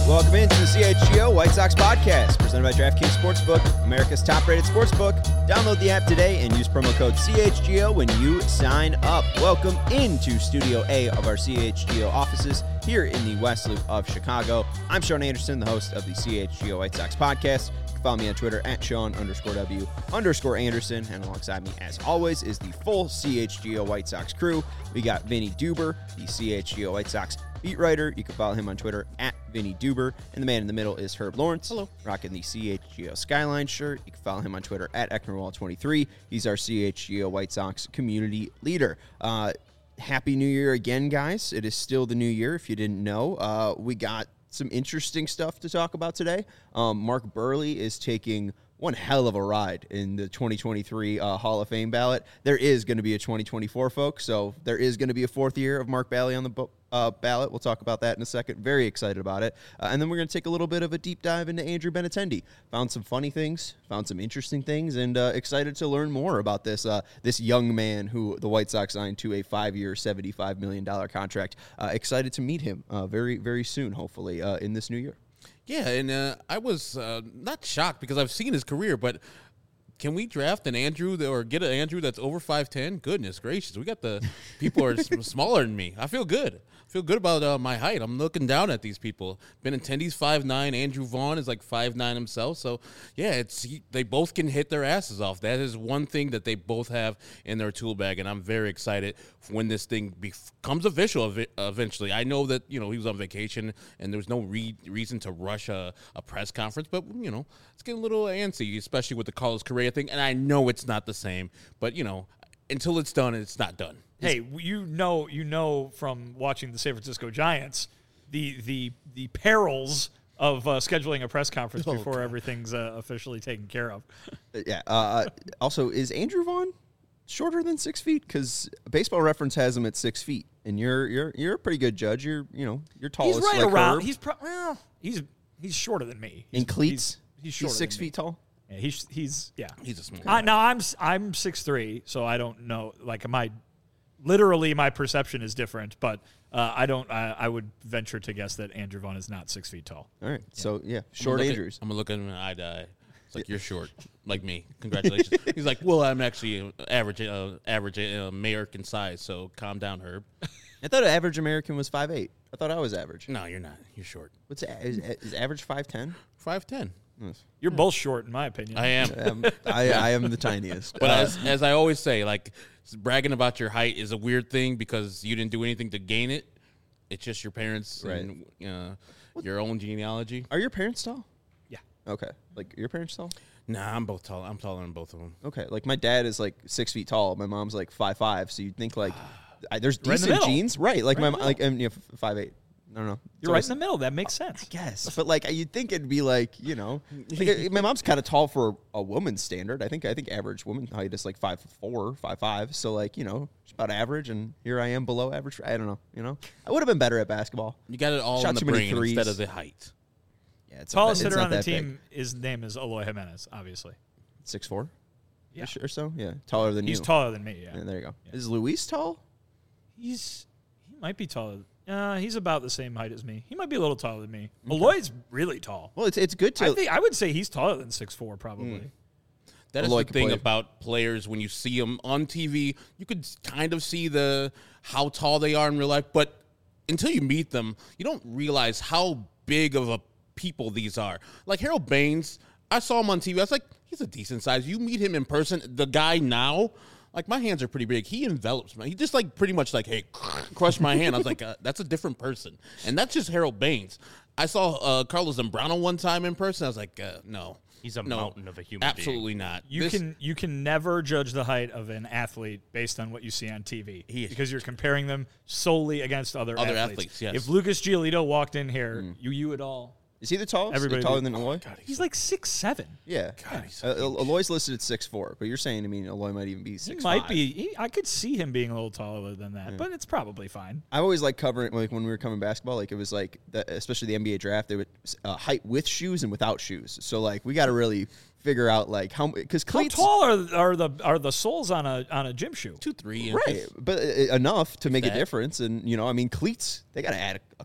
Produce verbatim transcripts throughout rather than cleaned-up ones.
Welcome into the C H G O White Sox podcast, presented by DraftKings Sportsbook, America's top-rated sportsbook. Download the app today and use promo code C H G O when you sign up. Welcome into Studio A of our C H G O offices here in the West Loop of Chicago. I'm Sean Anderson, the host of the C H G O White Sox podcast. You can follow me on Twitter at Sean underscore W underscore Anderson. And alongside me, as always, is the full C H G O White Sox crew. We got Vinny Duber, the C H G O White Sox beat writer. You can follow him on Twitter at Vinny Duber. And the man in the middle is Herb Lawrence. Hello. Rocking the C H G O Skyline shirt. You can follow him on Twitter at Ecknerwall twenty-three. He's our C H G O White Sox community leader. Uh, happy New Year again, guys. It is still the new year, if you didn't know. Uh, we got some interesting stuff to talk about today. Um, Mark Buehrle is taking one hell of a ride in the twenty twenty-three uh, Hall of Fame ballot. There is going to be a twenty twenty-four, folks, so there is going to be a fourth year of Mark Buehrle on the bo- uh, ballot. We'll talk about that in a second. Very excited about it. Uh, and then we're going to take a little bit of a deep dive into Andrew Benintendi. Found some funny things, found some interesting things, and uh, excited to learn more about this uh, this young man who the White Sox signed to a five-year, seventy-five million dollars contract. Uh, excited to meet him uh, very, very soon, hopefully, uh, in this new year. Yeah, and uh, I was uh, not shocked because I've seen his career, but can we draft an Andrew that, or get an Andrew that's over five ten? Goodness gracious, we got the people are smaller than me. I feel good. I feel good about uh, my height. I'm looking down at these people. Benintendi's five nine. Andrew Vaughn is like five nine himself. So, yeah, it's he, they both can hit their asses off. That is one thing that they both have in their tool bag, and I'm very excited when this thing becomes official eventually. I know that, you know, he was on vacation, and there was no re- reason to rush a, a press conference, but, you know, it's getting a little antsy, especially with the Carlos Correa thing, and I know it's not the same, but, you know, until it's done, it's not done. Hey, you know, you know from watching the San Francisco Giants, the the the perils of uh, scheduling a press conference Oh, before God. everything's uh, officially taken care of. Yeah. Uh, also, is Andrew Vaughn shorter than six feet? Because Baseball Reference has him at six feet, and you're you're you're a pretty good judge. You're you know you're tallest. He's right like around. Herb. He's pro- well, he's he's shorter than me. He's, in cleats. He's, he's shorter. He's six than me. feet tall. Yeah, he's he's yeah. He's a small Uh, guy. now I'm s- I'm six three, so I don't know. Like my literally my perception is different, but uh, I don't. I, I would venture to guess that Andrew Vaughn is not six feet tall. All right. So yeah, I'm short gonna look Andrews. At, I'm going to look at him eye to eye. It's like, you're short, like me. Congratulations. He's like, well, I'm actually average, uh, average uh, American size, so calm down, Herb. I thought an average American was five eight. I thought I was average. No, you're not. You're short. What's a- is, is average five ten? five ten. You're both short, in my opinion. I am. Um, I, I am the tiniest. But Uh, as, as I always say, like, bragging about your height is a weird thing because you didn't do anything to gain it. It's just your parents Right. and uh, your own genealogy. are your parents tall? Yeah. Okay. Like your parents tall? Nah, I'm both tall. I'm taller than both of them. Okay. Like my dad is like six feet tall. My mom's like five five. So you'd think like I, there's Right in the decent middle. genes, right? Like Right my in the mo- like um, you know, five eight. I don't know. You're So right it's- in the middle. That makes sense. I guess, but like you'd think it'd be like you know, like, my mom's kind of tall for a woman's standard. I think I think average woman height is like five four, five five. So like you know, it's about average, and here I am below average. I don't know. You know, I would have been better at basketball. You got it all Shot in the too many brain threes. instead of the height. Yeah, it's Tallest not, hitter it's on not the that team, his name is Eloy Jimenez, obviously. six four. Yeah. Or so. Yeah, taller than He's you. taller than me, yeah. Yeah, there you go. Yeah. Is Luis tall? He's he might be taller. Uh, he's about the same height as me. He might be a little taller than me. Eloy's really tall. Well, it's it's good to. I think I would say he's taller than six four, probably. That is Eloy the can thing play. about players when you see them on T V. You could kind of see the how tall they are in real life, but until you meet them, you don't realize how big of a people these are. Like Harold Baines, I saw him on T V. I was like, he's a decent size. You meet him in person, the guy now, like my hands are pretty big. He envelops me. He just like pretty much like, hey, crush my hand. I was like, uh, that's a different person, and that's just Harold Baines. I saw uh, Carlos Zambrano one time in person. I was like, uh, no. He's a No, mountain of a human Absolutely not. You This- can you can never judge the height of an athlete based on what you see on T V He is- because you're comparing them solely against other, Other athletes. athletes, yes. If Lucas Giolito walked in here, you you would all. Is he the tallest? Everybody taller do- than Eloy? God, He's like six seven. Yeah. God, he's Uh, El- Eloy's listed at six four, but you're saying, I mean, Eloy might even be He six might be. He, I could see him being a little taller than that, but it's probably fine. I always like covering, like when we were covering basketball, like it was like, the, especially the N B A draft, they would uh, height with shoes and without shoes. So like we got to really figure out like how, because How cleats, tall are, are the are the soles on a on a gym shoe? two three right? But uh, enough to make a that. difference, and you know, I mean, cleats they got to add a, a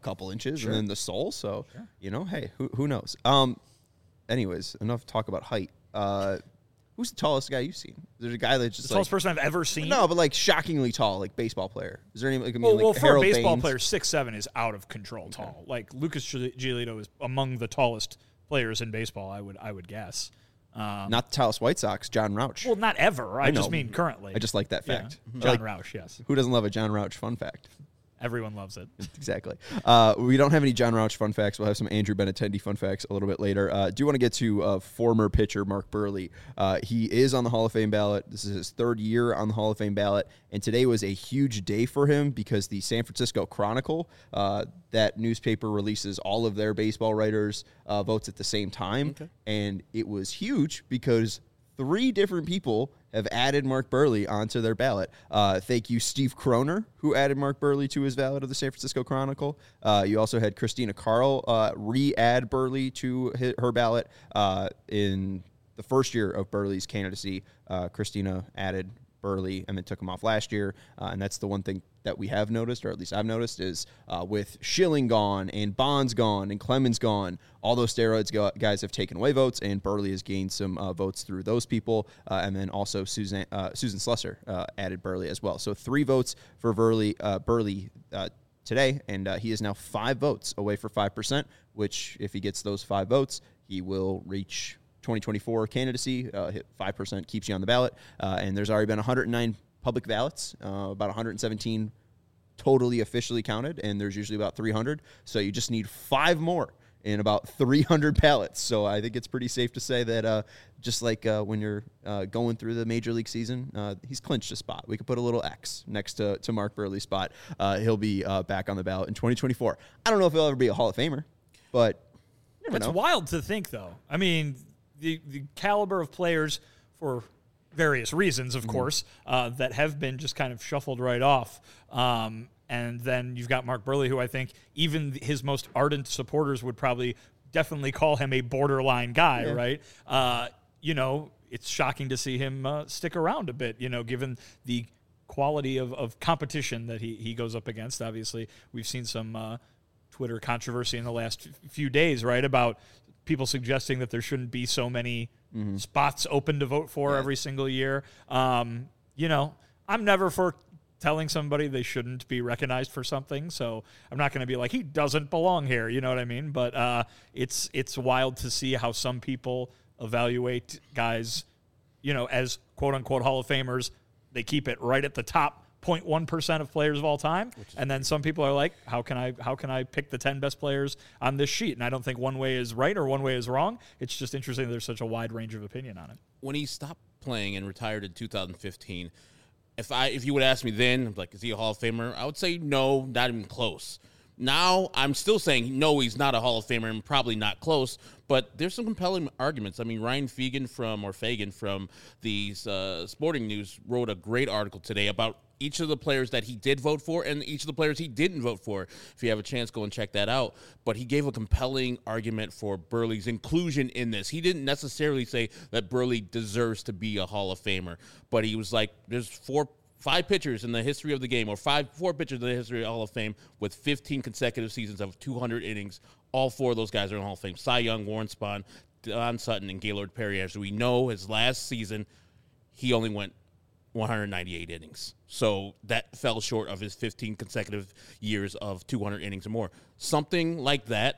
couple inches, Sure. and then the sole. So, Sure. you know, hey, who who knows? Um, anyways, enough talk about height. Uh, who's the tallest guy you've seen? There's a guy that's just The like tallest person I've ever seen. no, but like shockingly tall, like baseball player. Is there any like I mean, Well, like well, for Harold a baseball Baines? player, six seven is out of control tall. Like Lucas Giolito is among the tallest players in baseball. I would I would guess. Um, Not the tallest White Sox, John Rauch. well, not ever. I, I just know. mean currently. I just like that Yeah. fact. John Like, Rauch, yes. who doesn't love a John Rauch fun fact? Everyone loves it. Exactly. Uh, we don't have any John Rauch fun facts. We'll have some Andrew Benintendi fun facts a little bit later. Uh, do want to get to uh, former pitcher Mark Buehrle. Uh, he is on the Hall of Fame ballot. This is his third year on the Hall of Fame ballot, and today was a huge day for him because the San Francisco Chronicle, uh, that newspaper releases all of their baseball writers' uh, votes at the same time, Okay. and it was huge because three different people have added Mark Buehrle onto their ballot. Uh, thank you, Steve Kroner, who added Mark Buehrle to his ballot of the San Francisco Chronicle. Uh, you also had Christina Carl uh, re-add Buehrle to hi- her ballot uh, in the first year of Buehrle's candidacy. Uh, Christina added Buehrle and then took him off last year. Uh, and that's the one thing that we have noticed, or at least I've noticed, is uh, with Schilling gone and Bonds gone and Clemens gone, all those steroids go- guys have taken away votes, and Buehrle has gained some uh, votes through those people. Uh, and then also Susan uh, Susan Slusser uh, added Buehrle as well. So three votes for Buehrle, uh, Buehrle uh, today, and uh, he is now five votes away for five percent, which if he gets those five votes, he will reach twenty twenty-four candidacy. Uh, hit five percent keeps you on the ballot. Uh, and there's already been one hundred nine public ballots, uh, about one hundred seventeen totally officially counted, and there's usually about three hundred. So you just need five more in about three hundred ballots. So I think it's pretty safe to say that uh, just like uh, when you're uh, going through the Major League season, uh, he's clinched a spot. We could put a little X next to, to Mark Buehrle's spot. Uh, he'll be uh, back on the ballot in twenty twenty-four. I don't know if he'll ever be a Hall of Famer, but you never It's know. wild to think, though. I mean, the the caliber of players, for various reasons, of course, uh, that have been just kind of shuffled right off. Um, and then you've got Mark Buehrle, who I think even his most ardent supporters would probably definitely call him a borderline guy, Yeah. right? Uh, you know, it's shocking to see him uh, stick around a bit, you know, given the quality of, of competition that he, he goes up against. Obviously, we've seen some uh, Twitter controversy in the last f- few days, right, about people suggesting that there shouldn't be so many Mm-hmm. spots open to vote for Yeah. every single year. Um, you know, I'm never for telling somebody they shouldn't be recognized for something, so I'm not going to be like, he doesn't belong here, you know what I mean? But uh, it's it's wild to see how some people evaluate guys, you know, as quote-unquote Hall of Famers. They keep it right at the top zero point one percent of players of all time, and then some people are like, how can I how can I pick the ten best players on this sheet? And I don't think one way is right or one way is wrong. It's just interesting that there's such a wide range of opinion on it. When he stopped playing and retired in two thousand fifteen, if I if you would ask me then, like, is he a Hall of Famer? I would say no, not even close. Now I'm still saying no, he's not a Hall of Famer and probably not close. But there's some compelling arguments. I mean, Ryan Fegan from or Fagan from the uh, Sporting News wrote a great article today about each of the players that he did vote for and each of the players he didn't vote for. If you have a chance, go and check that out. But he gave a compelling argument for Buehrle's inclusion in this. He didn't necessarily say that Buehrle deserves to be a Hall of Famer, but he was like, there's four, five pitchers in the history of the game, or five, four pitchers in the history of Hall of Fame with fifteen consecutive seasons of two hundred innings. All four of those guys are in the Hall of Fame. Cy Young, Warren Spahn, Don Sutton, and Gaylord Perry. As we know, his last season, he only went one hundred ninety-eight innings. So that fell short of his fifteen consecutive years of two hundred innings or more. Something like that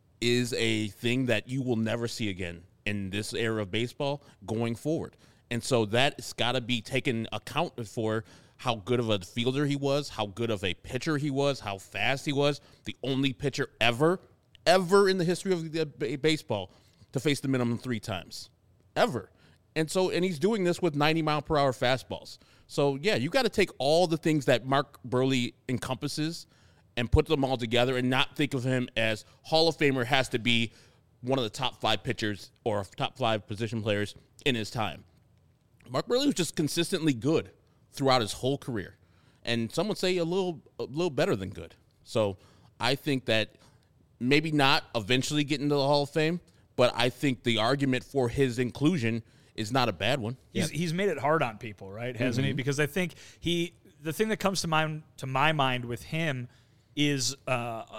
is a thing that you will never see again in this era of baseball going forward. And so that's got to be taken account for, how good of a fielder he was, how good of a pitcher he was, how fast he was. The only pitcher ever, ever in the history of the b- baseball to face the minimum three times. Ever. And so, and he's doing this with ninety mile per hour fastballs. So, yeah, you got to take all the things that Mark Buehrle encompasses and put them all together and not think of him as Hall of Famer has to be one of the top five pitchers or top five position players in his time. Mark Buehrle was just consistently good throughout his whole career. And some would say a little a little better than good. So I think that maybe not eventually get into the Hall of Fame, but I think the argument for his inclusion is not a bad one. He's he's made it hard on people, right? Hasn't he? Because I think he the thing that comes to mind to my mind with him is uh,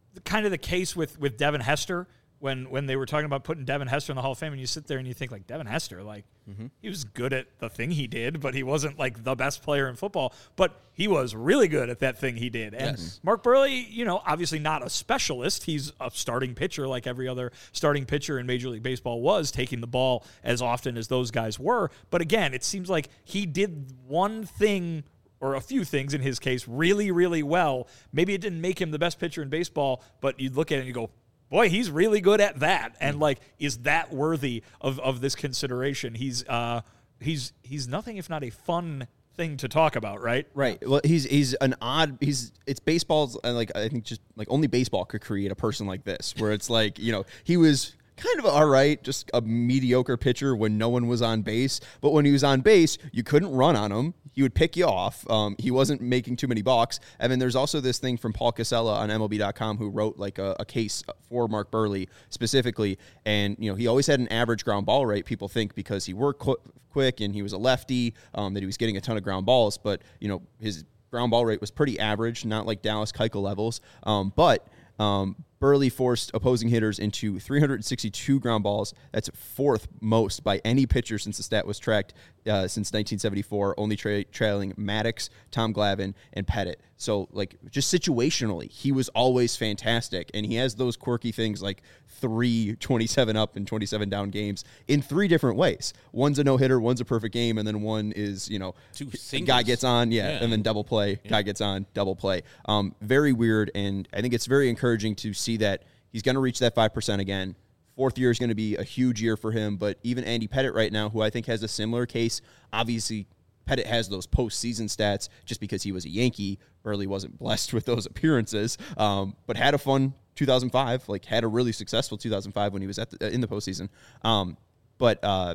kind of the case with, with Devin Hester when, when they were talking about putting Devin Hester in the Hall of Fame, and you sit there and you think, like, Devin Hester, like, mm-hmm. he was good at the thing he did, but he wasn't, like, the best player in football. But he was really good at that thing he did. And yes. Mark Buehrle, you know, obviously not a specialist. He's a starting pitcher like every other starting pitcher in Major League Baseball was, taking the ball as often as those guys were. But, again, it seems like he did one thing or a few things in his case really, really well. Maybe it didn't make him the best pitcher in baseball, but you look at it and you go, boy, he's really good at that. And, like, is that worthy of, of this consideration? He's uh, he's he's nothing if not a fun thing to talk about, right? Right. Well, he's he's an odd. He's it's baseball's uh, like I think just like only baseball could create a person like this, where it's like, you know, he was kind of all right, just a mediocre pitcher when no one was on base. But when he was on base, you couldn't run on him. He would pick you off. Um, he wasn't making too many balks. And then there's also this thing from Paul Casella on M L B dot com who wrote like a, a case for Mark Buehrle specifically. And, you know, he always had an average ground ball rate, people think, because he worked qu- quick and he was a lefty, um, that he was getting a ton of ground balls. But, you know, his ground ball rate was pretty average, not like Dallas Keuchel levels. Um, but Um, Buehrle forced opposing hitters into three hundred sixty-two ground balls. That's fourth most by any pitcher since the stat was tracked uh, since nineteen seventy-four, only tra- trailing Maddox, Tom Glavine, and Pettit. So, like, just situationally, he was always fantastic, and he has those quirky things like three twenty-seven up and twenty-seven down games in three different ways. One's a no-hitter, one's a perfect game, and then one is, you know, Two guy gets on, yeah, yeah, and then double play, yeah. guy gets on, double play. Um, very weird, and I think it's very encouraging to see that he's going to reach that five percent again. Fourth year is going to be a huge year for him, but even Andy Pettitte right now, who I think has a similar case, obviously Pettitte has those postseason stats just because he was a Yankee. Buehrle wasn't blessed with those appearances, um, but had a fun two thousand five, like had a really successful two thousand five when he was at the, in the postseason. Um, but, uh,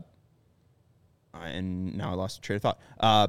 and now I lost the train of thought. Uh,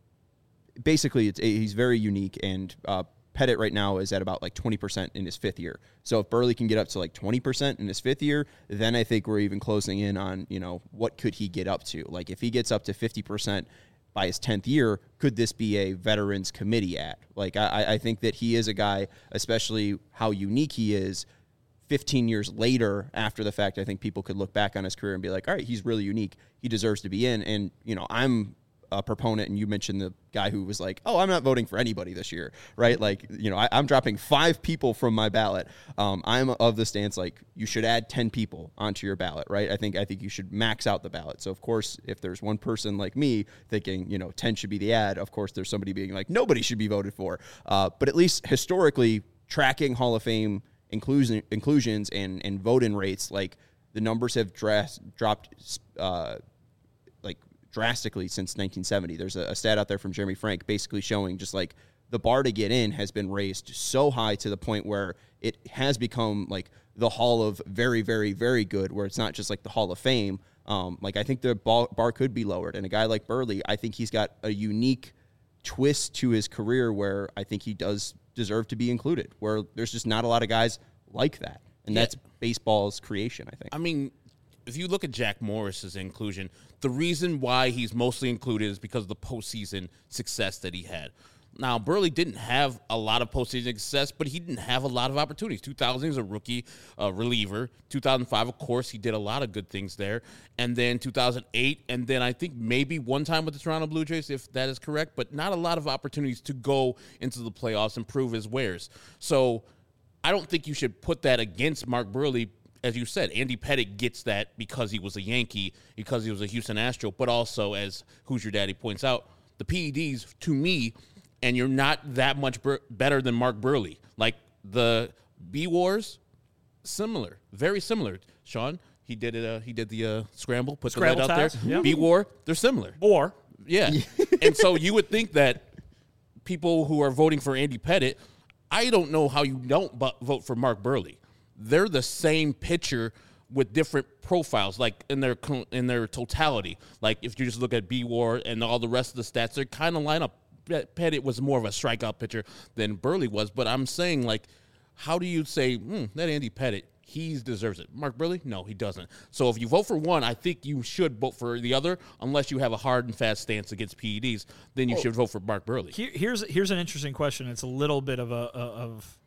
basically, it's, he's very unique, and uh, Pettitte right now is at about like twenty percent in his fifth year. So if Buehrle can get up to like twenty percent in his fifth year, then I think we're even closing in on, you know, what could he get up to? Like if he gets up to fifty percent by his tenth year, could this be a veterans committee at? Like I, I think that he is a guy, especially how unique he is, fifteen years later after the fact, I think people could look back on his career and be like, all right, he's really unique. He deserves to be in. And, you know, I'm a proponent, and you mentioned the guy who was like, oh, I'm not voting for anybody this year, right? Like, you know, I, I'm dropping five people from my ballot. Um, I'm of the stance, like, you should add ten people onto your ballot, right? I think I think you should max out the ballot. So, of course, if there's one person like me thinking, you know, ten should be the ad, of course, there's somebody being like, nobody should be voted for. Uh, but at least historically, tracking Hall of Fame inclusion, inclusions and, and vote-in rates, like, the numbers have dras- dropped uh, like drastically since nineteen seventy. There's a, a stat out there from Jeremy Frank basically showing just like the bar to get in has been raised so high to the point where it has become like the Hall of very, very, very good, where it's not just like the Hall of Fame. Um, like I think the bar, bar could be lowered. And a guy like Buehrle, I think he's got a unique twist to his career where I think he does deserve to be included, where there's just not a lot of guys like that. And yeah. that's baseball's creation, I think. I mean, if you look at Jack Morris's inclusion, the reason why he's mostly included is because of the postseason success that he had. Now, Buehrle didn't have a lot of postseason success, but he didn't have a lot of opportunities. two thousand, he was a rookie uh, reliever. two thousand five, of course, he did a lot of good things there. And then two thousand eight, and then I think maybe one time with the Toronto Blue Jays, if that is correct, but not a lot of opportunities to go into the playoffs and prove his wares. So I don't think you should put that against Mark Buehrle. As you said, Andy Pettitte gets that because he was a Yankee, because he was a Houston Astro, but also, as Who's Your Daddy points out, the P E Ds, to me, and you're not that much ber- better than Mark Buehrle. Like, the B-Wars, similar, very similar. Sean, he did it. Uh, he did the uh, scramble, put Scramble the lead out ties, there. yep. B-War, they're similar. War. Yeah. And so you would think that people who are voting for Andy Pettitte, I don't know how you don't bu- vote for Mark Buehrle. They're the same pitcher with different profiles, like in their in their totality. Like if you just look at B-War and all the rest of the stats, they kind of line up. Pettitte was more of a strikeout pitcher than Buehrle was, but I'm saying, like, how do you say, hmm, that Andy Pettitte, he deserves it. Mark Buehrle? No, he doesn't. So if you vote for one, I think you should vote for the other, unless you have a hard and fast stance against P E Ds, then you oh, should vote for Mark Buehrle. Here, here's here's an interesting question. It's a little bit of a, a of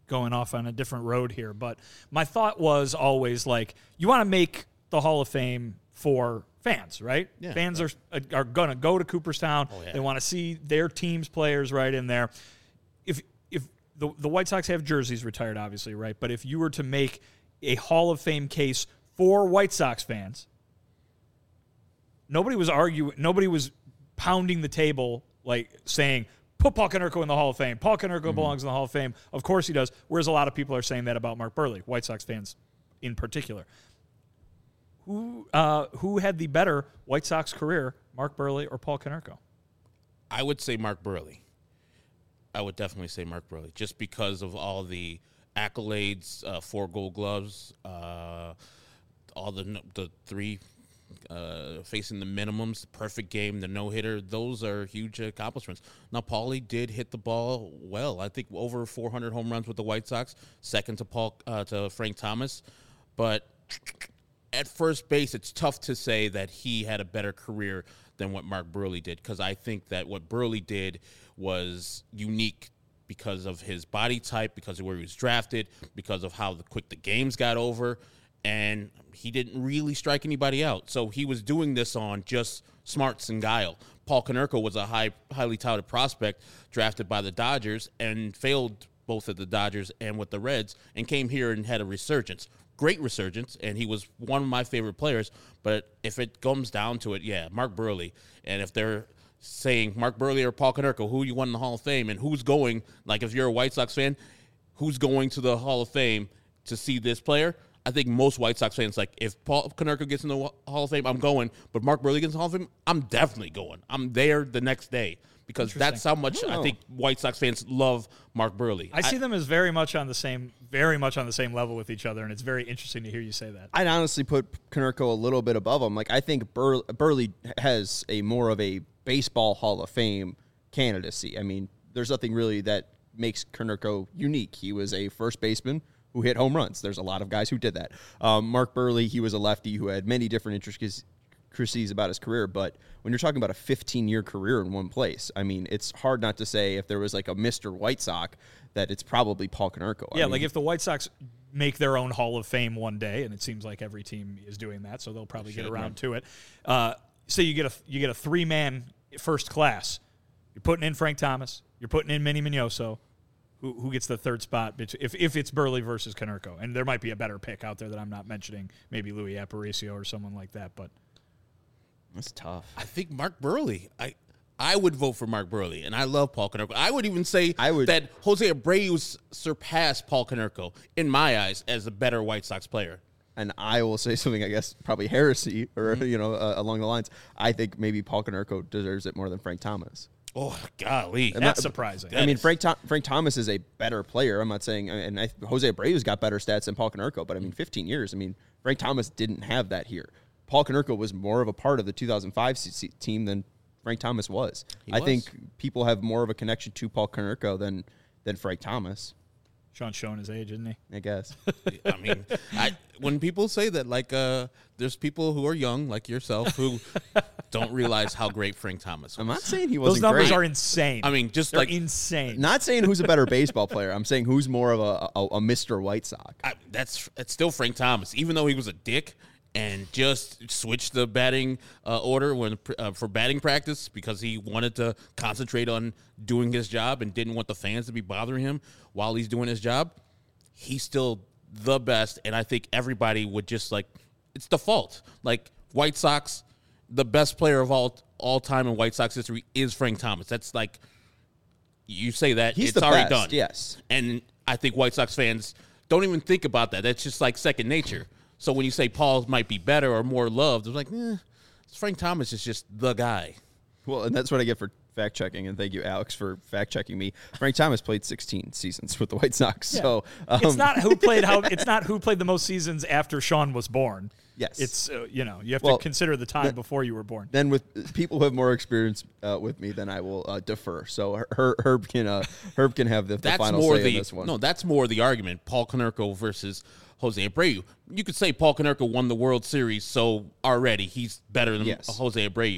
going off on a different road here, but my thought was always like, you want to make the Hall of Fame for fans, right? Yeah, fans yeah. are are going to go to Cooperstown. Oh, yeah. They want to see their team's players right in there. If if the the White Sox have jerseys retired, obviously, right? But if you were to make a Hall of Fame case for White Sox fans, nobody was arguing. Nobody was pounding the table like saying, put Paul Konerko in the Hall of Fame. Paul Konerko mm-hmm. belongs in the Hall of Fame. Of course he does. Whereas a lot of people are saying that about Mark Buehrle, White Sox fans in particular. Who uh, who had the better White Sox career, Mark Buehrle or Paul Konerko? I would say Mark Buehrle. I would definitely say Mark Buehrle, just because of all the accolades, uh, four Gold Gloves, uh, all the the three uh, facing the minimums, the perfect game, the no hitter. Those are huge accomplishments. Now, Paulie did hit the ball well. I think over four hundred home runs with the White Sox, second to Paul uh, to Frank Thomas, but at first base, it's tough to say that he had a better career than what Mark Buehrle did, because I think that what Buehrle did was unique because of his body type, because of where he was drafted, because of how the quick the games got over, and he didn't really strike anybody out. So he was doing this on just smarts and guile. Paul Konerko was a high, highly touted prospect drafted by the Dodgers and failed both at the Dodgers and with the Reds, and came here and had a resurgence. Great resurgence, and he was one of my favorite players. But if it comes down to it, yeah, Mark Buehrle. And if they're saying Mark Buehrle or Paul Konerko, who you won in the Hall of Fame, and who's going, like if you're a White Sox fan, who's going to the Hall of Fame to see this player? I think most White Sox fans, like, if Paul Konerko gets in the Hall of Fame, I'm going. But Mark Buehrle gets in the Hall of Fame, I'm definitely going. I'm there the next day. Because that's how much I, I think White Sox fans love Mark Buehrle. I see I, them as very much on the same, very much on the same level with each other, and it's very interesting to hear you say that. I'd honestly put Konerko a little bit above him. Like, I think Bur- Buehrle has a more of a baseball Hall of Fame candidacy. I mean, there's nothing really that makes Konerko unique. He was a first baseman who hit home runs. There's a lot of guys who did that. Um, Mark Buehrle, he was a lefty who had many different intricacies about his career, but when you're talking about a fifteen-year career in one place, I mean, it's hard not to say if there was like a Mister White Sox that it's probably Paul Konerko. Yeah, I mean, like if the White Sox make their own Hall of Fame one day, and it seems like every team is doing that, so they'll probably get around to it. Uh, so you get a you get a three-man first class. You're putting in Frank Thomas. You're putting in Manny Mignoso. Who, who gets the third spot if if it's Buehrle versus Konerko? And there might be a better pick out there that I'm not mentioning, maybe Louis Aparicio or someone like that, but that's tough. I think Mark Buehrle. I I would vote for Mark Buehrle, and I love Paul Konerko. I would even say I would, that Jose Abreu surpassed Paul Konerko, in my eyes, as a better White Sox player. And I will say something, I guess, probably heresy, or, mm-hmm. you know, uh, along the lines. I think maybe Paul Konerko deserves it more than Frank Thomas. Oh, golly. And that's surprising. I mean, Frank Th- Frank Thomas is a better player. I'm not saying, and I, Jose Abreu's got better stats than Paul Konerko, but I mean, fifteen years. I mean, Frank Thomas didn't have that here. Paul Konerko was more of a part of the two thousand five team than Frank Thomas was. He I was. think people have more of a connection to Paul Konerko than than Frank Thomas. Sean's showing his age, isn't he? I guess. I mean, I, when people say that, like, uh, there's people who are young, like yourself, who don't realize how great Frank Thomas was. I'm not saying he wasn't Those numbers great. are insane. I mean, just They're like insane. Not saying who's a better baseball player. I'm saying who's more of a, a, a Mister White Sox. I, that's it's still Frank Thomas, even though he was a dick and just switched the batting uh, order when uh, for batting practice because he wanted to concentrate on doing his job and didn't want the fans to be bothering him while he's doing his job. He's still the best, and I think everybody would just, like, it's default. Like, White Sox, the best player of all all time in White Sox history is Frank Thomas. That's, like, you say that, He's it's the already best, done. yes. And I think White Sox fans don't even think about that. That's just, like, second nature. So when you say Paul might be better or more loved, it's like, eh, Frank Thomas is just the guy. Well, and that's what I get for fact checking, and thank you, Alex, for fact checking me. Frank Thomas played sixteen seasons with the White Sox, Yeah. so um, it's not who played how. It's not who played the most seasons after Sean was born. Yes, It's uh, you know you have Well, to consider the time before you were born. Then with people who have more experience uh, with me, then I will uh, defer. So Her- Herb can uh, Herb can have the, the That's final more say the in this one. no. That's more the argument. Paul Konerko versus Jose Abreu. You could say Paul Konerko won the World Series, so already he's better than Yes. Jose Abreu.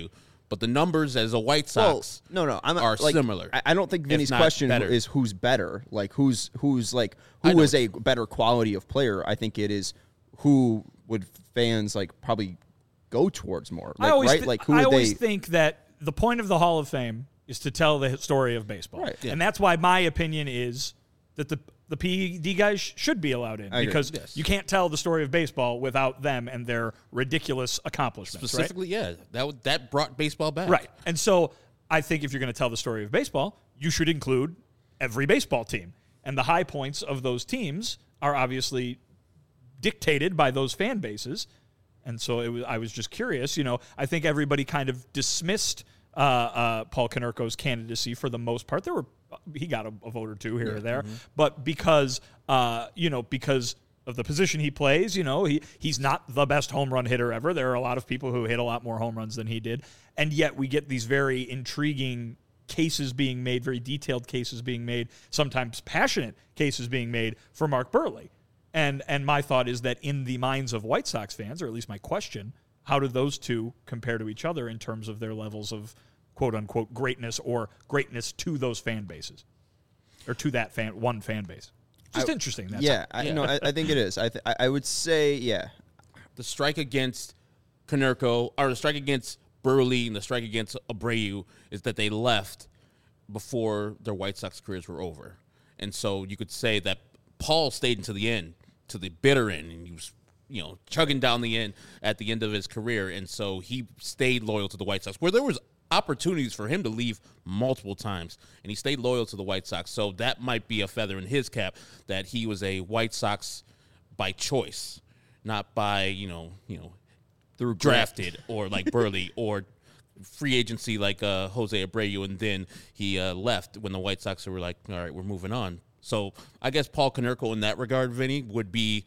but the numbers as a White Well, Sox no, no, I'm are like, similar. I, I don't think Vinny's not question better. is who's better. Like who's who's like I who know is a better quality of player. I think it is who would fans like probably go towards more. Like, I always, right? th- like who I would always they? think that the point of the Hall of Fame is to tell the story of baseball, Right. and that's why my opinion is that the the P E D guys sh- should be allowed in I agree. because Yes. you can't tell the story of baseball without them and their ridiculous accomplishments. Right? Specifically, yeah, that w- that brought baseball back. Right. And so I think if you're going to tell the story of baseball, you should include every baseball team. And the high points of those teams are obviously dictated by those fan bases. And so it was, I was just curious. You know, I think everybody kind of dismissed uh, uh, Paul Konerko's candidacy for the most part. There were he got a, a vote or two here or there, but because uh, you know because of the position he plays, you know, he he's not the best home run hitter ever. There are a lot of people who hit a lot more home runs than he did, and yet we get these very intriguing cases being made, very detailed cases being made, sometimes passionate cases being made for Mark Burley. And and my thought is that in the minds of White Sox fans, or at least my question, how do those two compare to each other in terms of their levels of quote-unquote greatness or greatness to those fan bases or to that fan one fan base? Just I, interesting. That's yeah, all. I, Yeah. no, I, I think it is. I th- I I would say yeah. The strike against Konerko, or the strike against Burley and the strike against Abreu is that they left before their White Sox careers were over. And so you could say that Paul stayed until the end, to the bitter end, and he was, you know, chugging down the end at the end of his career. And so he stayed loyal to the White Sox, where there was opportunities for him to leave multiple times, and he stayed loyal to the White Sox. So that might be a feather in his cap that he was a White Sox by choice, not by, you know, you know, through drafted or like Burley or free agency like uh, Jose Abreu, and then he uh, left when the White Sox were like, all right, we're moving on. So I guess Paul Konerko in that regard, Vinny, would be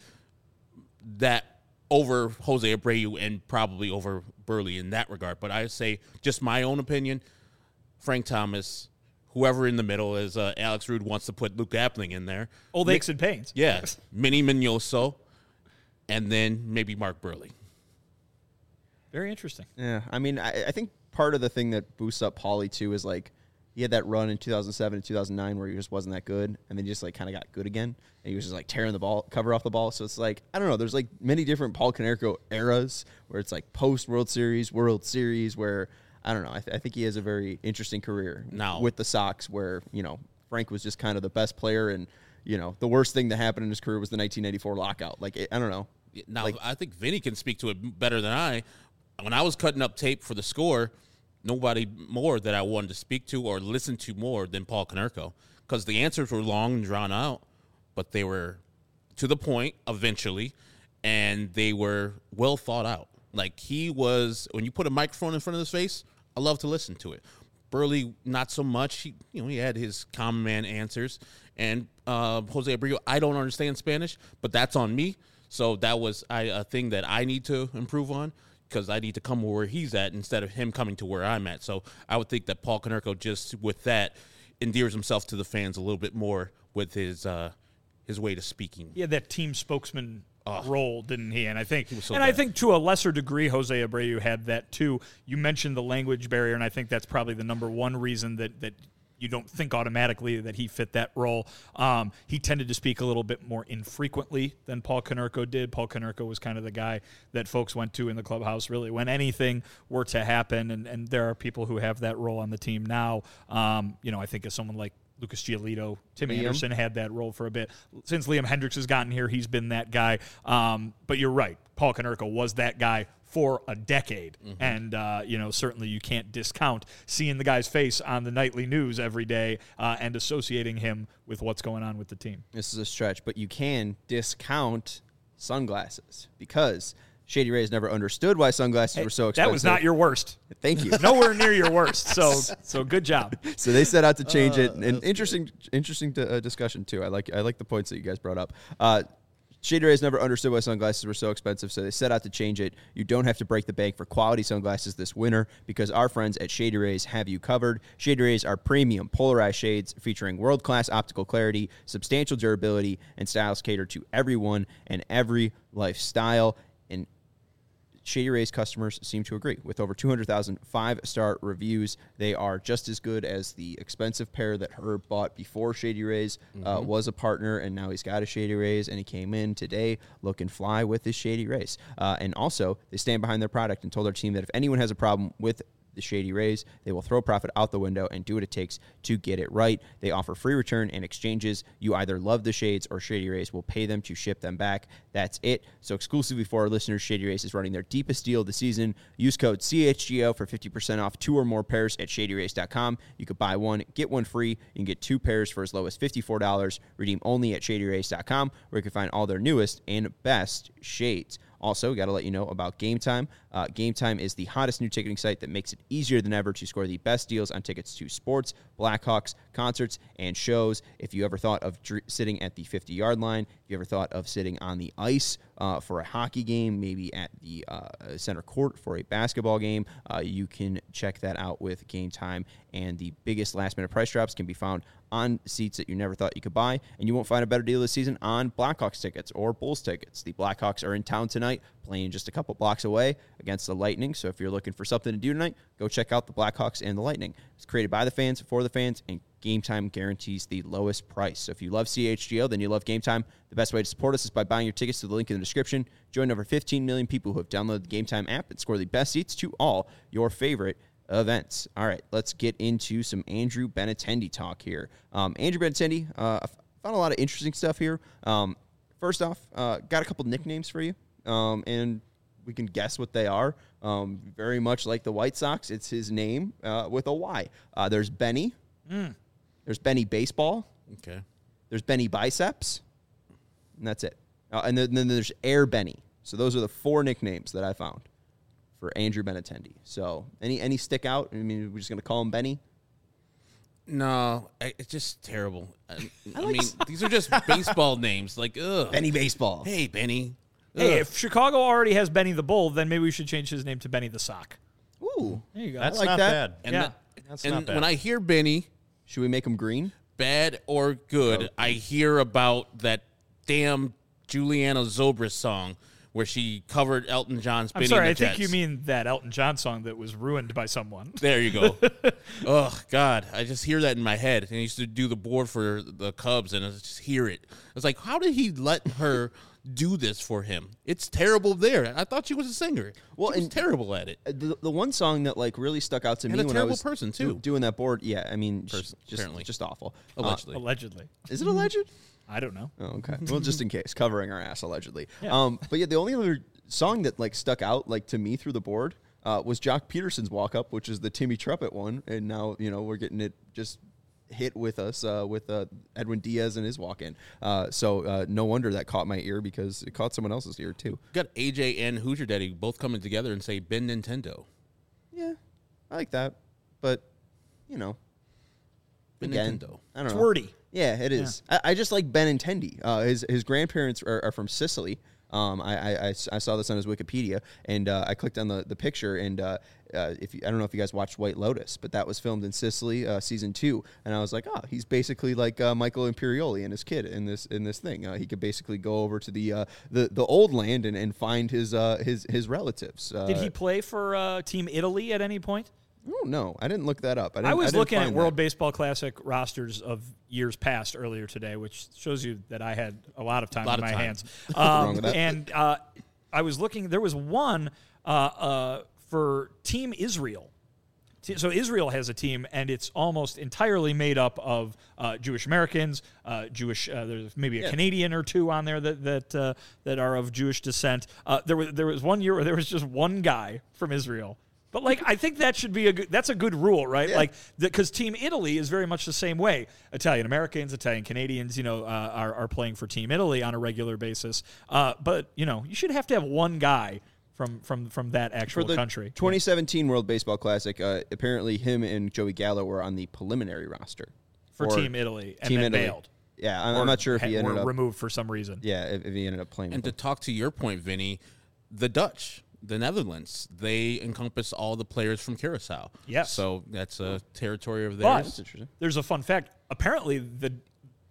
that over Jose Abreu and probably over Burley in that regard. But I say, just my own opinion, Frank Thomas, whoever in the middle, as uh, Alex Rude wants to put Luke Appling in there. Old aches and pains. Yeah, Minnie Mignoso, and then maybe Mark Burley. Very interesting. Yeah, I mean, I, I think part of the thing that boosts up Paulie too is like he had that run in two thousand seven and two thousand nine where he just wasn't that good, and then he just like kind of got good again, and he was just like tearing the ball, cover off the ball. So it's like I don't know. There's like many different Paul Konerko eras where it's like post World Series, World Series, where I don't know. I, th- I think he has a very interesting career Now- with the Sox, where you know Frank was just kind of the best player, and you know the worst thing that happened in his career was the nineteen ninety-four lockout. Like it, I don't know. Now, Like- I think Vinny can speak to it better than I. When I was cutting up tape for the Score, nobody more that I wanted to speak to or listen to more than Paul Konerko, because the answers were long and drawn out, but they were to the point eventually, and they were well thought out. Like he was, when you put a microphone in front of his face, I love to listen to it. Burley, not so much. He, you know, he had his common man answers, and uh, Jose Abreu, I don't understand Spanish, but that's on me. So that was I, a thing that I need to improve on, because I need to come where he's at instead of him coming to where I'm at. So I would think that Paul Konerko, just with that, endears himself to the fans a little bit more with his uh, his way to speaking. He had that team spokesman Oh. role, didn't he? And I think, was so and I bad. think to a lesser degree, Jose Abreu had that too. You mentioned the language barrier, and I think that's probably the number one reason that that you don't think automatically that he fit that role. Um, he tended to speak a little bit more infrequently than Paul Konerko did. Paul Konerko was kind of the guy that folks went to in the clubhouse, really, when anything were to happen. And, and there are people who have that role on the team now. Um, you know, I think of someone like Lucas Giolito, Tim Liam. Anderson had that role for a bit. Since Liam Hendricks has gotten here, he's been that guy. Um, but you're right. Paul Konerko was that guy for a decade. Mm-hmm. And, uh, you know, certainly you can't discount seeing the guy's face on the nightly news every day uh, and associating him with what's going on with the team. This is a stretch, but you can discount sunglasses because Shady Rays never understood why sunglasses were so expensive. That was not your worst. Thank you. Nowhere near your worst. So, so good job. So they set out to change it, and interesting, interesting uh, discussion too. I like, I like the points that you guys brought up. Uh, Shady Rays never understood why sunglasses were so expensive, so they set out to change it. You don't have to break the bank for quality sunglasses this winter because our friends at Shady Rays have you covered. Shady Rays are premium polarized shades featuring world-class optical clarity, substantial durability, and styles cater to everyone and every lifestyle. And Shady Rays customers seem to agree. With over two hundred thousand five-star reviews, they are just as good as the expensive pair that Herb bought before Shady Rays mm-hmm. uh, was a partner, and now he's got a Shady Rays, and he came in today looking fly with his Shady Rays. Uh, and also, they stand behind their product and told our team that if anyone has a problem with the Shady Rays, they will throw profit out the window and do what it takes to get it right. They offer free return and exchanges. You either love the shades or Shady Rays will pay them to ship them back. That's it. So exclusively for our listeners, Shady Rays is running their deepest deal of the season. Use code C H G O for fifty percent off two or more pairs at shady rays dot com. You could buy one, get one free. You can get two pairs for as low as fifty-four dollars. Redeem only at shady rays dot com, where you can find all their newest and best shades. Also, got to let you know about Game Time. Uh, Game Time is the hottest new ticketing site that makes it easier than ever to score the best deals on tickets to sports, Blackhawks, concerts, and shows. If you ever thought of dr- sitting at the fifty-yard line, if you ever thought of sitting on the ice uh, for a hockey game, maybe at the uh, center court for a basketball game, uh, you can check that out with Game Time. And the biggest last-minute price drops can be found on seats that you never thought you could buy, and you won't find a better deal this season on Blackhawks tickets or Bulls tickets. The Blackhawks are in town tonight, playing just a couple blocks away against the Lightning, so if you're looking for something to do tonight, go check out the Blackhawks and the Lightning. It's created by the fans, for the fans, and Game Time guarantees the lowest price. So if you love C H G O, then you love Game Time. The best way to support us is by buying your tickets to the link in the description. Join over fifteen million people who have downloaded the Game Time app and score the best seats to all your favorite events. All right, let's get into some Andrew Benintendi talk here. Um, Andrew Benintendi, uh, I found a lot of interesting stuff here. Um, first off, uh, got a couple nicknames for you, um, and we can guess what they are. Um, very much like the White Sox, it's his name uh, with a Y. Uh, there's Benny. Mm. There's Benny Baseball. Okay. There's Benny Biceps. And that's it. Uh, and then, then there's Air Benny. So those are the four nicknames that I found for Andrew Benintendi. So any any stick out? I mean, we're just going to call him Benny? No, I, it's just terrible. I, I, like mean, these are just baseball names. Like, ugh. Benny Baseball. Hey, Benny. Hey, Ugh. if Chicago already has Benny the Bull, then maybe we should change his name to Benny the Sock. Ooh. There you go. That's like not that. bad. And, yeah. the- That's and not bad. when I hear Benny, Should we make him green? bad or good, Oh. I hear about that damn Juliana Zobris song where she covered Elton John's I'm Benny sorry, I and the think you Jets. mean that Elton John song that was ruined by someone. There you go. Oh, God. I just hear that in my head. And I used to do the board for the Cubs, and I just hear it. I was like, how did he let her do this for him? It's terrible there. I thought she was a singer. Well, she was and- terrible at it. Uh, The, the one song that like really stuck out to And me a when I terrible was person, do- too. doing that board, yeah, I mean, sh- Person, just apparently. just awful. Uh, Allegedly. Allegedly. is it alleged? I don't know. Oh, okay. Well, just in case, covering our ass allegedly. Yeah. Um, but yeah, the only other song that like stuck out like to me through the board uh, was Jock Peterson's "Walk Up," which is the Timmy Trumpet one, and now you know we're getting it just hit with us uh, with uh, Edwin Diaz and his walk in. Uh, so uh, no wonder that caught my ear because it caught someone else's ear too. Got A J and Hoosier Daddy both coming together and say Ben Nintendo. Yeah, I like that, but you know, Ben again, Nintendo. I don't It's know. wordy. Yeah, it is. I, I just like Benintendi. Uh, his his grandparents are, are from Sicily. Um, I, I, I s- I saw this on his Wikipedia, and uh, I clicked on the, the picture, and uh, uh, if you, I don't know if you guys watched White Lotus, but that was filmed in Sicily, uh, season two, and I was like, oh, he's basically like uh, Michael Imperioli and his kid in this in this thing. Uh, he could basically go over to the uh, the, the old land and, and find his uh, his his relatives. Uh, Did he play for uh, Team Italy at any point? I don't know. I didn't look that up. I, didn't, I was didn't looking at find World that. Baseball Classic rosters of years past earlier today, which shows you that I had a lot of time Lot in of my time. hands. wrong Um, with that. and uh, I was looking. There was one uh, uh, for Team Israel. T- So Israel has a team, and it's almost entirely made up of uh, Jewish Americans, uh, Jewish. Uh, there's maybe a Yeah. Canadian or two on there that that uh, that are of Jewish descent. Uh, there was there was one year where there was just one guy from Israel. But like, I think that should be a good, that's a good rule, right? Yeah. Like, because Team Italy is very much the same way. Italian Americans, Italian Canadians, you know, uh, are are playing for Team Italy on a regular basis. Uh, but you know, you should have to have one guy from from from that actual For the country. twenty seventeen World Baseball Classic, uh, apparently him and Joey Gallo were on the preliminary roster for Or Team Italy, and Team then Italy. bailed. Yeah, I'm, Or I'm not sure if he had- ended were up. removed for some reason. Yeah, if, if he ended up playing. And to with talk to your point, Vinny, the Dutch, the Netherlands, they encompass all the players from Curacao. Yes. So that's a territory of But theirs. interesting. there's a fun fact. Apparently, the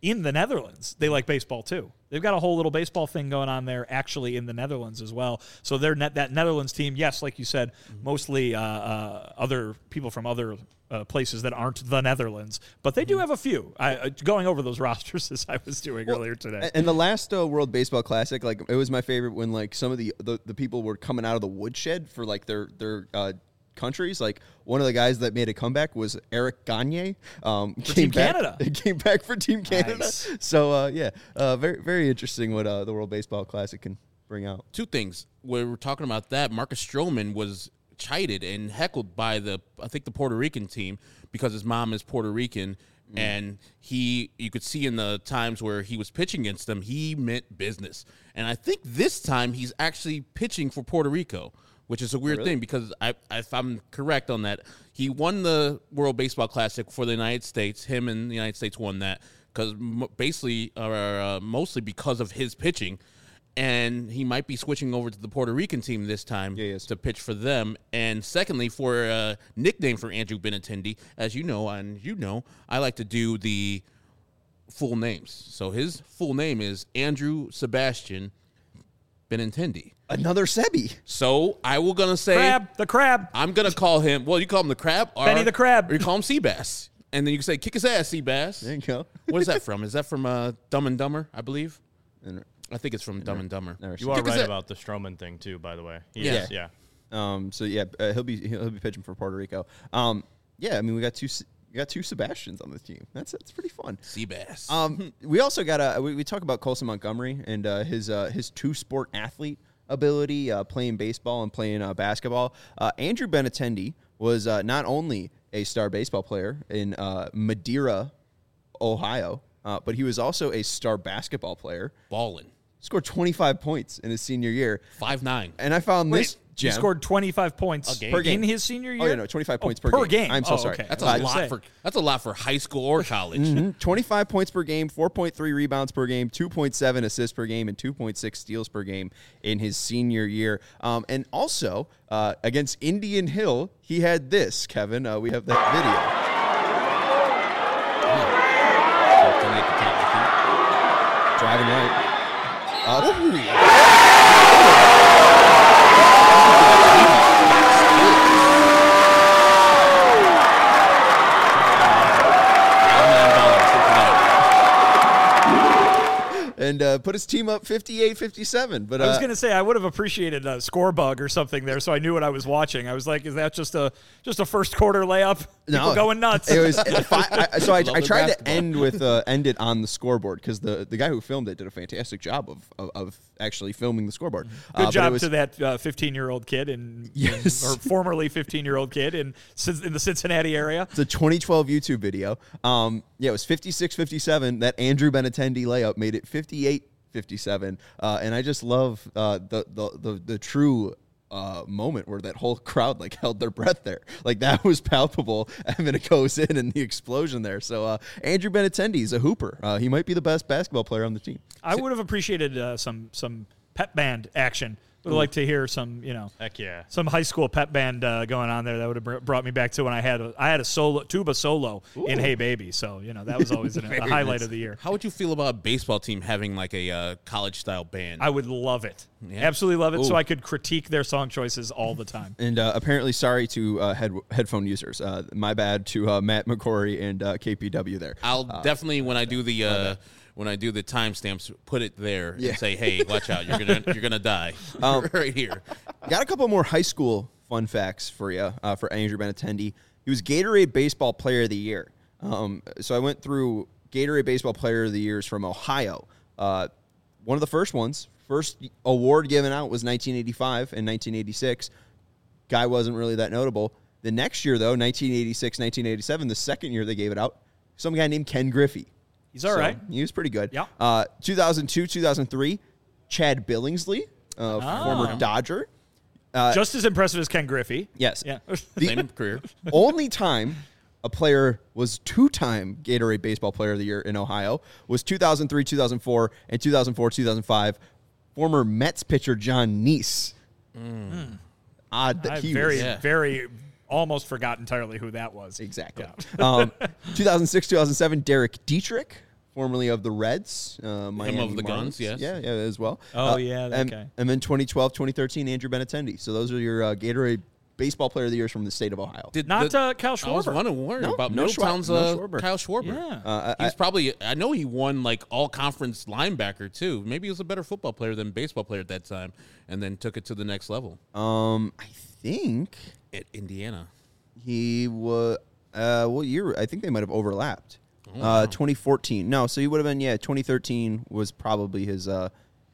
in the Netherlands, they like baseball too. They've got a whole little baseball thing going on there actually in the Netherlands as well. So they're net, that Netherlands team, yes, like you said, mm-hmm. mostly uh, uh, other people from other uh, places that aren't the Netherlands. But they do have a few. I, uh, going over those rosters as I was doing well, earlier today. And the last uh, World Baseball Classic, like it was my favorite when like some of the, the, the people were coming out of the woodshed for like their, their uh, countries. Like one of the guys that made a comeback was Eric Gagne. Um, for came Team back, Canada. Came back for Team Canada. Nice. So uh, yeah, uh, very very interesting what uh, the World Baseball Classic can bring out. Two things. When we're talking about that, Marcus Stroman was chided and heckled by the I think the Puerto Rican team because his mom is Puerto Rican. Mm. And he, you could see in the times where he was pitching against them, he meant business. And I think this time he's actually pitching for Puerto Rico, which is a weird really? thing because I, if I'm correct on that, he won the World Baseball Classic for the United States. Him and the United States won that because basically, or uh, mostly because of his pitching. And he might be switching over to the Puerto Rican team this time yeah, yes. to pitch for them. And secondly, for a nickname for Andrew Benintendi, as you know, and you know, I like to do the full names. So his full name is Andrew Sebastian Benintendi. Another Sebi. So I will gonna say Crab, the crab. I'm gonna call him. Well, you call him the crab, or, Benny the crab, or you call him Seabass, and then you can say kick his ass, Seabass. There you go. What is that from? Is that from uh, Dumb and Dumber? I believe. And, I think it's from Dumb and Dumber. You are right about the Stroman thing too, by the way. He Yeah. is, yeah. Um. So yeah, uh, he'll be he'll be pitching for Puerto Rico. Um. Yeah. I mean, we got two we got two Sebastians on the team. That's that's pretty fun. Seabass. Um. We also got a we, we talk about Colson Montgomery and uh, his uh, his two sport athlete ability, uh, playing baseball and playing uh, basketball. Uh, Andrew Benintendi was uh, not only a star baseball player in uh, Madeira, Ohio, uh, but he was also a star basketball player. Ballin'. Scored twenty-five points in his senior year. five nine. And I found Wait, this he gem. scored twenty-five points A game. Per game. in his senior year? Oh, yeah, no, twenty-five Oh, points per, per game. game. I'm so Oh, sorry. okay. That's I a was lot gonna say. for that's a lot for high school or college. Mm-hmm. twenty-five points per game, four point three rebounds per game, two point seven assists per game, and two point six steals per game in his senior year. Um, and also, uh, against Indian Hill, he had this, Kevin. Uh, we have that video. Driving right. Uh, and uh, put his team up fifty-eight fifty-seven. But uh, I was going to say I would have appreciated a score bug or something there, so I knew what I was watching. I was like, "Is that just a just a first quarter layup? People No, going nuts." It was fi- I, so I, Love I the tried to basketball. end with uh, end it on the scoreboard because the, the guy who filmed it did a fantastic job of of, of actually filming the scoreboard. Good Uh, but it job was- to that fifteen-year-old kid in, Yes. in or formerly fifteen-year-old kid in Cin- in the Cincinnati area. It's a twenty twelve YouTube video. Um, yeah, it was fifty-six fifty-seven. That Andrew Benintendi layup made it fifty-eight fifty-seven. Uh, and I just love uh, the, the the the true uh, moment where that whole crowd like held their breath there. Like that was palpable. And then it goes in and the explosion there. So uh, Andrew Benintendi is a hooper. Uh, he might be the best basketball player on the team. I would have appreciated uh, some some pep band action. Would have liked to hear some, you know, Heck yeah. some high school pep band uh, going on there. That would have br- brought me back to when I had a, I had a solo tuba solo in Hey Baby. So you know that was always an, a highlight nice. of the year. How would you feel about a baseball team having like a uh, college style band? I would love it, Yeah. absolutely love it. So Ooh. I could critique their song choices all the time. And uh, apparently, sorry to uh, head headphone users. Uh, my bad to uh, Matt McCory and uh, K P W there. I'll definitely when I do the uh, when I do the timestamps, put it there Yeah. and say, "Hey, watch out! You're gonna you're gonna die Um, right here." Got a couple more high school fun facts for you uh, for Andrew Benintendi. He was Gatorade Baseball Player of the Year. Um, so I went through Gatorade Baseball Player of the Years from Ohio. Uh, one of the first ones, first award given out was nineteen eighty-five and nineteen eighty-six. Guy wasn't really that notable. The next year, though, nineteen eighty-six, nineteen eighty-seven, the second year they gave it out, some guy named Ken Griffey. He's all So, right. He was pretty good. Yeah. Uh, two thousand two, two thousand three, Chad Billingsley, uh, Ah. former Dodger. Uh, Just as impressive as Ken Griffey. yes. Yeah. The Same career. only time a player was two-time Gatorade Baseball Player of the Year in Ohio was two thousand three, two thousand four, and two thousand four, two thousand five. Former Mets pitcher John Neese. Mm. Odd that I he very, was. Yeah. very almost forgot entirely who that was. Exactly. Yeah. um, two thousand six, two thousand seven, Derek Dietrich, formerly of the Reds. Uh, Miami of the Marlins. Guns, yes. Yeah, yeah, as well. Oh, Uh, yeah, that and, guy. And then twenty twelve, twenty thirteen, Andrew Benintendi. So those are your uh, Gatorade Baseball Player of the Years from the state of Ohio. Did Not the, uh, Cal I was Schwarber. wondering No, about no Middletown's Schwa- no uh, Schwarber. Kyle Schwarber. Yeah. Uh, I, He's probably, I know he won like all conference linebacker too. Maybe he was a better football player than baseball player at that time, and then took it to the next level um, I think at Indiana. he was. Uh, what year? I think they might have overlapped. Oh, uh, wow. twenty fourteen. No, so he would have been. Yeah, twenty thirteen was probably his. Uh,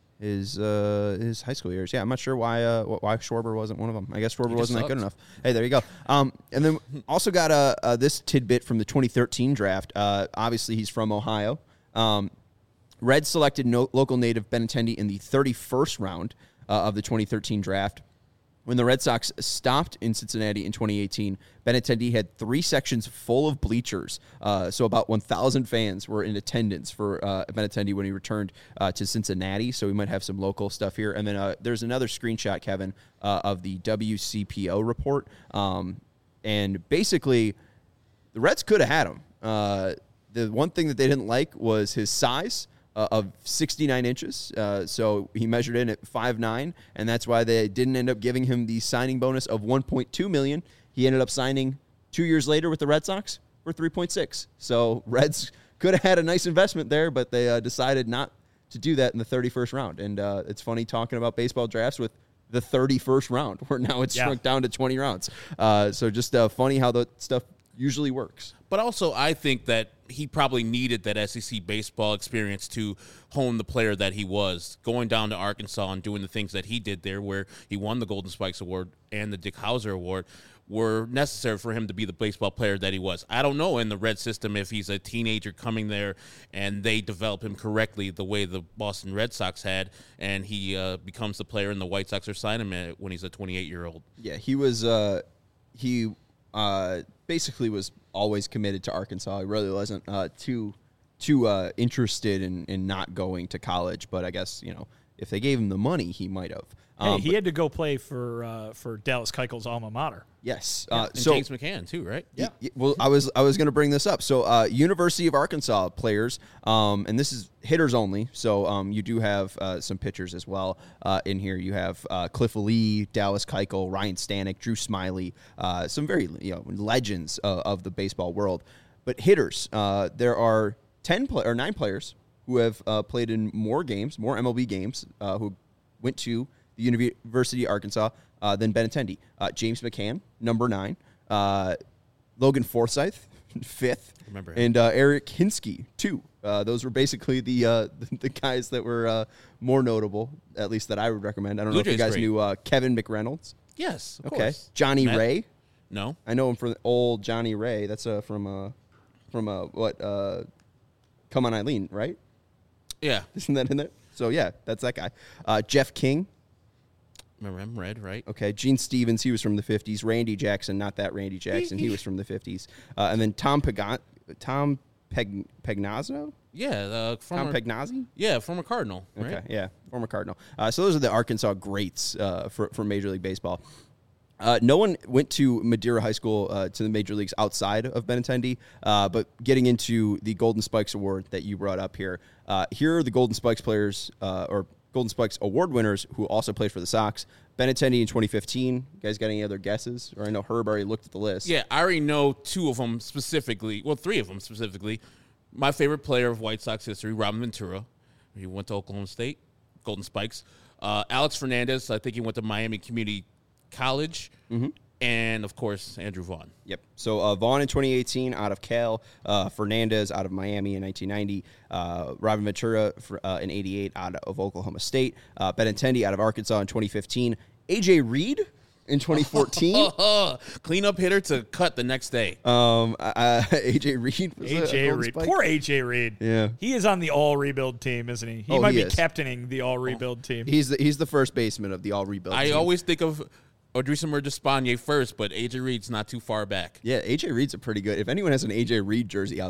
his uh, his high school years. Yeah, I'm not sure why uh, wh- why Schwarber wasn't one of them. I guess Schwarber just wasn't that good sucks. enough. Hey, there you go. Um, and then also got uh, uh, this tidbit from the twenty thirteen draft. Uh, obviously, he's from Ohio. Um, Reds selected no- local native Benintendi in the thirty-first round uh, of the twenty thirteen draft. When the Red Sox stopped in Cincinnati in twenty eighteen, Benintendi had three sections full of bleachers. Uh, so about one thousand fans were in attendance for uh, Benintendi when he returned uh, to Cincinnati. So we might have some local stuff here. And then uh, there's another screenshot, Kevin, uh, of the W C P O report. Um, and basically, the Reds could have had him. Uh, the one thing that they didn't like was his size. Uh, of sixty-nine inches. Uh, so he measured in at five nine, and that's why they didn't end up giving him the signing bonus of one point two million dollars. He ended up signing two years later with the Red Sox for three point six. So Reds could have had a nice investment there, but they uh, decided not to do that in the thirty-first round. And uh, it's funny talking about baseball drafts with the thirty-first round, where now it's Yeah. shrunk down to twenty rounds. Uh, so just uh, funny how that stuff usually works. But also, I think that he probably needed that S E C baseball experience to hone the player that he was. Going down to Arkansas and doing the things that he did there, where he won the Golden Spikes Award and the Dick Hauser Award, were necessary for him to be the baseball player that he was. I don't know in the Red system if he's a teenager coming there and they develop him correctly the way the Boston Red Sox had, and he uh, becomes the player and the White Sox are signing him when he's a twenty-eight-year-old. Yeah, he was. Uh, he uh, basically was always committed to Arkansas. He really wasn't uh, too too uh, interested in, in not going to college. But I guess you know if they gave him the money, he might have. Hey, Um, he but had to go play for uh, for Dallas Keuchel's alma mater. yes. Yeah, Uh, and so James McCann too, right? Y- y- Well, I was I was going to bring this up. So, uh, University of Arkansas players, um, and this is hitters only. So, um, you do have uh, some pitchers as well uh, in here. You have uh, Cliff Lee, Dallas Keuchel, Ryan Stanek, Drew Smiley, uh, some very you know legends uh, of the baseball world. But hitters, uh, there are ten play- or nine players who have uh, played in more games, more M L B games, uh, who went to the University of Arkansas uh, than Benintendi. Uh, James McCann, number nine. Uh, Logan Forsythe, fifth. Remember him. And uh, Eric Hinsky, two. Uh, those were basically the uh, the guys that were uh, more notable, at least that I would recommend. I don't Blue know if you Jays guys great. knew uh, Kevin McReynolds. Yes, of Okay. course. Johnny Matt? Ray. No. I know him from old Johnny Ray. That's uh, from uh, from uh, what? Uh, Come on, Eileen, right? Yeah. Isn't that in there? So yeah, that's that guy. Uh, Jeff King. Remember him, Red, right? Okay, Gene Stevens, he was from the fifties. Randy Jackson, not that Randy Jackson, he was from the fifties. Uh, and then Tom Pagan, Tom Peg, Pegnazzo? Yeah, uh, Tom former, Pegnazzi? yeah, former Cardinal, right? Okay, yeah, former Cardinal. Uh, so those are the Arkansas greats uh, for, for Major League Baseball. Uh, no one went to Madeira High School uh, to the major leagues outside of Benintendi, uh, but getting into the Golden Spikes Award that you brought up here, uh, here are the Golden Spikes players, uh, or Golden Spikes Award winners who also played for the Sox. Benintendi in twenty fifteen. You guys got any other guesses? Or I know Herb already looked at the list. Yeah, I already know two of them specifically. Well, three of them specifically. My favorite player of White Sox history, Robin Ventura. He went to Oklahoma State, Golden Spikes. Uh, Alex Fernandez, I think he went to Miami Community College. Mm-hmm. And, of course, Andrew Vaughn. Yep. So uh, Vaughn in twenty eighteen out of Cal, uh, Fernandez out of Miami in nineteen ninety, uh, Robin Ventura for, uh, in eighty-eight out of Oklahoma State, uh, Benintendi out of Arkansas in twenty fifteen, A J Reed in twenty fourteen. Cleanup hitter to cut the next day. um, uh, A J Reed. Was a- A J a Golden Reed. Spike. Poor A J Reed. Yeah. He is on the all rebuild team, isn't he? He Oh, might he be is. captaining the all rebuild team. He's the, he's the first baseman of the all rebuild. I team. always think of Odrisamer Despaigne first, but A J Reed's not too far back. Yeah, A J Reed's a pretty good. If anyone has an A J Reed jersey out there,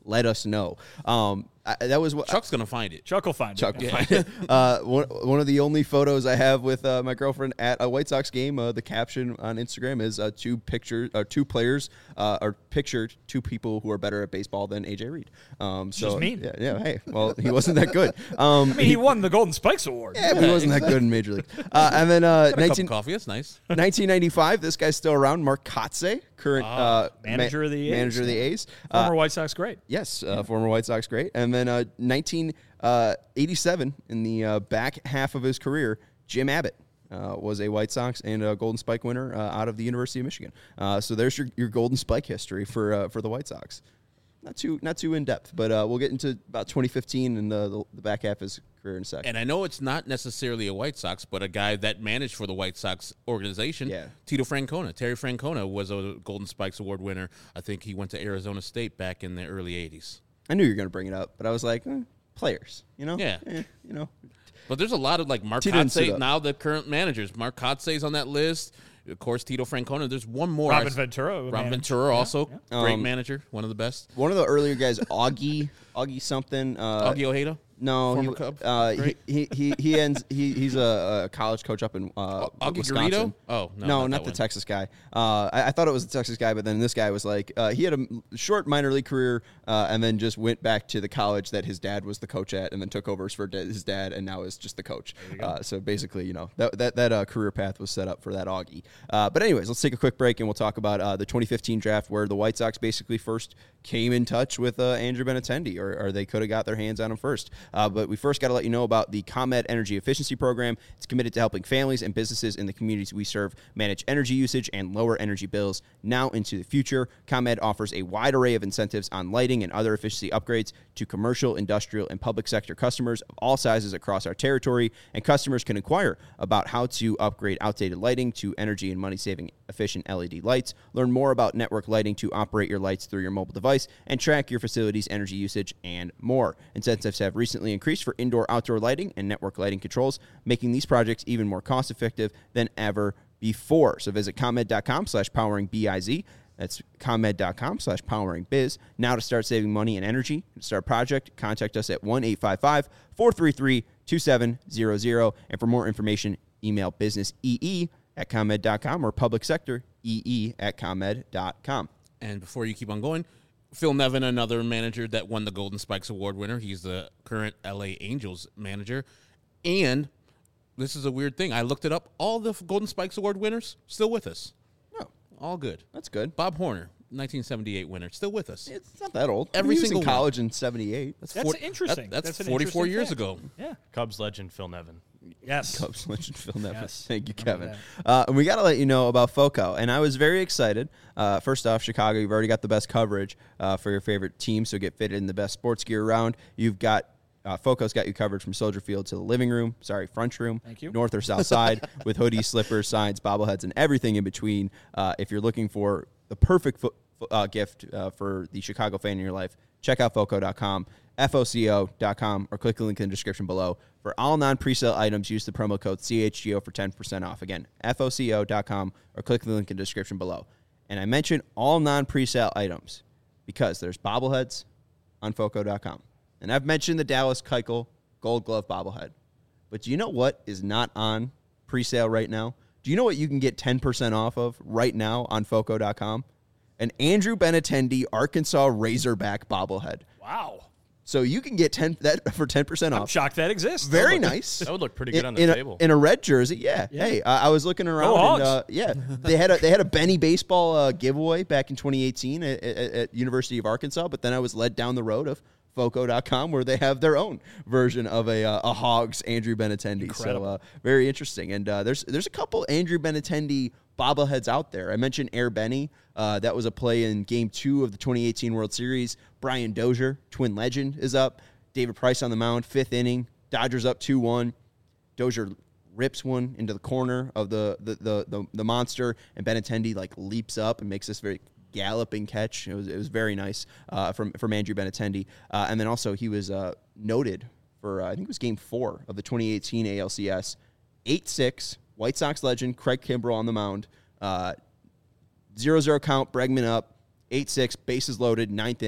let us know. Um, I, that was what Chuck's gonna find it. Chuck will find Chuck it. will find it. Uh, one, one of the only photos I have with uh, my girlfriend at a White Sox game. Uh, the caption on Instagram is uh, two pictures, uh, two players uh, are pictured two people who are better at baseball than A J Reed. Um, so Just mean. yeah, yeah. Hey, well, he wasn't that good. Um, I mean, he won the Golden Spikes Award. yeah, but he wasn't that good in Major League. Uh, and then uh, Got a cup nineteen of coffee. That's nice. nineteen ninety-five, this guy's still around. Mark Kotze, current uh, manager ma- of the A's. manager of the A's. Uh, Former White Sox great. Yes, uh, former White Sox great. And then uh, nineteen eighty-seven, in the uh, back half of his career, Jim Abbott uh, was a White Sox and a Golden Spike winner uh, out of the University of Michigan. Uh, so there's your, your Golden Spike history for uh, for the White Sox. Not too not too in depth, but uh, we'll get into about twenty fifteen and the, the, the back half of his career in a second. And I know it's not necessarily a White Sox, but a guy that managed for the White Sox organization, Yeah. Tito Francona. Terry Francona was a Golden Spikes Award winner. I think he went to Arizona State back in the early eighties. I knew you were going to bring it up, but I was like, eh, players, you know? Yeah. Eh, you know? But there's a lot of, like, Mark Tito didn't sit Kotsay, up. now the current managers. Mark Kotze's on that list. Of course, Tito Francona. There's one more. Robin I- Ventura. Robin man. Ventura also. yeah. Great Um, manager. One of the best. One of the earlier guys, Augie, Augie something. Uh, Augie Ojeda. No, Former he, Cub? uh, he, Great. he he he ends. He he's a, a college coach up in uh, Augie Wisconsin. Garrido? Oh, no, no, not not, that the one. Texas guy. Uh, I, I thought it was the Texas guy, but then this guy was like, uh, he had a m- short minor league career, uh, and then just went back to the college that his dad was the coach at, and then took over for da- his dad, and now is just the coach. Uh, so basically, you know, that that that uh, career path was set up for that Augie. Uh, but anyways, let's take a quick break, and we'll talk about uh, the twenty fifteen draft, where the White Sox basically first came in touch with uh, Andrew Benintendi, or, or they could have got their hands on him first. Uh, but we first got to let you know about the ComEd Energy Efficiency Program. It's committed to helping families and businesses in the communities we serve manage energy usage and lower energy bills now into the future. ComEd offers a wide array of incentives on lighting and other efficiency upgrades to commercial, industrial, and public sector customers of all sizes across our territory, and customers can inquire about how to upgrade outdated lighting to energy and money-saving efficient L E D lights. Learn more about network lighting to operate your lights through your mobile device and track your facility's energy usage and more. Incentives have recently increased for indoor-outdoor lighting and network lighting controls, making these projects even more cost-effective than ever before. So visit ComEd.com slash powering B-I-Z. That's ComEd.com slash powering biz. Now to start saving money and energy, to start a project, contact us at one eight five five, four three three, two seven zero zero. And for more information, email businessee at ComEd dot com or public sector ee at ComEd dot com. And before you keep on going, Phil Nevin, another manager that won the Golden Spikes Award winner. He's the current L A Angels manager. And this is a weird thing. I looked it up. All the Golden Spikes Award winners still with us. Oh, All good. that's good. Bob Horner, nineteen seventy-eight winner, still with us. It's not that old. Every He was single in one. college in seventy-eight. That's four- interesting. that- that's That's an forty-four interesting years fact. ago. Yeah. Cubs legend Phil Nevin. Yes. Cubs legend Phil Nevin. Yes. Thank you, Remember Kevin. Uh, and we got to let you know about FOCO. And I was very excited. Uh, first off, Chicago, you've already got the best coverage uh, for your favorite team, so get fitted in the best sports gear around. You've got uh, FOCO's got you covered from Soldier Field to the living room, sorry, front room, Thank you. north or south side, with hoodies, slippers, signs, bobbleheads, and everything in between. Uh, if you're looking for the perfect fo- fo- uh, gift uh, for the Chicago fan in your life, check out foco dot com. F O C O dot com, or click the link in the description below. For all non-presale items, use the promo code C H G O for ten percent off. Again, F O C O dot com, or click the link in the description below. And I mentioned all non-presale items because there's bobbleheads on foco dot com. And I've mentioned the Dallas Keuchel Gold Glove bobblehead. But do you know what is not on presale right now? Do you know what you can get ten percent off of right now on foco dot com? An Andrew Benintendi Arkansas Razorback bobblehead. Wow. So you can get ten that for ten percent I'm off. shocked that exists. Very nice. That would look pretty good in, on the in table. A, in a red jersey, yeah. Yeah. Hey, uh, I was looking around. Go and, Hogs. uh, yeah, they had a they had a Benny baseball uh, giveaway back in twenty eighteen at, at, at University of Arkansas. But then I was led down the road of foco dot com, where they have their own version of a uh, a Hogs Andrew Benintendi. Incredible. So uh, very interesting. And uh, there's there's a couple Andrew Benintendi bobbleheads out there. I mentioned Air Benny. Uh, that was a play in Game Two of the twenty eighteen World Series. Brian Dozier, Twin legend, is up. David Price on the mound, fifth inning. Dodgers up two one. Dozier rips one into the corner of the the the, the, the monster, and Benintendi like leaps up and makes this very galloping catch. It was it was very nice uh, from from Andrew Benintendi. Uh, and then also he was uh, noted for uh, I think it was Game Four of the twenty eighteen A L C S. eight six, White Sox legend Craig Kimbrell on the mound. Uh, zero zero count, Bregman up. eight six, bases loaded, ninth inning.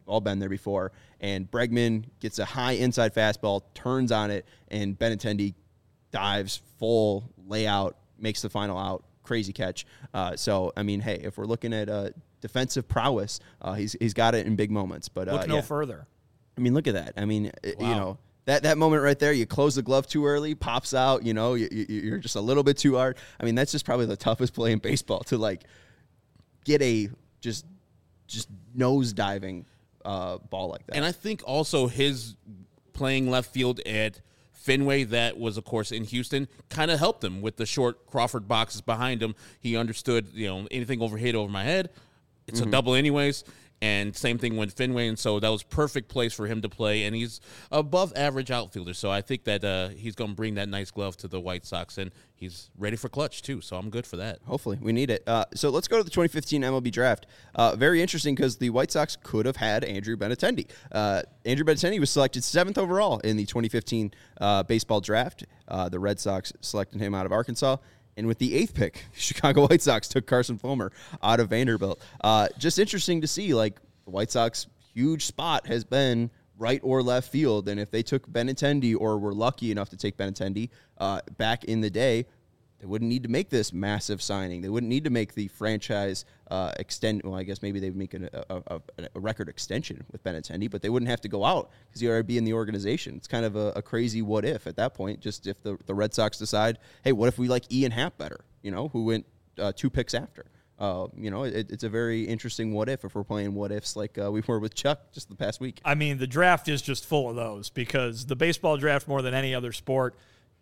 all been there before. And Bregman gets a high inside fastball, turns on it, and Benintendi dives full layout, makes the final out. Crazy catch. Uh, so, I mean, hey, if we're looking at uh, defensive prowess, uh, he's he's got it in big moments. But uh, Look no yeah. further. I mean, look at that. I mean, wow. you know, that, that moment right there, you close the glove too early, pops out, you know, you, you, you're just a little bit too hard. I mean, that's just probably the toughest play in baseball to, like, get a just just nose diving uh, ball like that. And I think also his playing left field at Fenway, that was, of course, in Houston, kind of helped him with the short Crawford boxes behind him. He understood, you know, anything over hit over my head, it's mm-hmm. a double anyways. And same thing with Fenway, and so that was perfect place for him to play. And he's above average outfielder, so I think that uh, he's going to bring that nice glove to the White Sox, and he's ready for clutch too. So I'm good for that. Hopefully, we need it. Uh, so let's go to the twenty fifteen M L B draft. Uh, very interesting because the White Sox could have had Andrew Benintendi. Uh, Andrew Benintendi was selected seventh overall in the twenty fifteen uh, baseball draft. Uh, the Red Sox selected him out of Arkansas. And with the eighth pick, Chicago White Sox took Carson Fulmer out of Vanderbilt. Uh, just interesting to see, like, the White Sox huge spot has been right or left field. And if they took Benintendi or were lucky enough to take Benintendi uh, back in the day, they wouldn't need to make this massive signing. They wouldn't need to make the franchise uh, extend. Well, I guess maybe they would make a, a, a, a record extension with Benintendi, but they wouldn't have to go out because he already be in the organization. It's kind of a, a crazy what if at that point. Just if the, the Red Sox decide, hey, what if we like Ian Happ better? You know, who went uh, two picks after. Uh, you know, it, it's a very interesting what if if we're playing what ifs like uh, we were with Chuck just the past week. I mean, the draft is just full of those because the baseball draft, more than any other sport,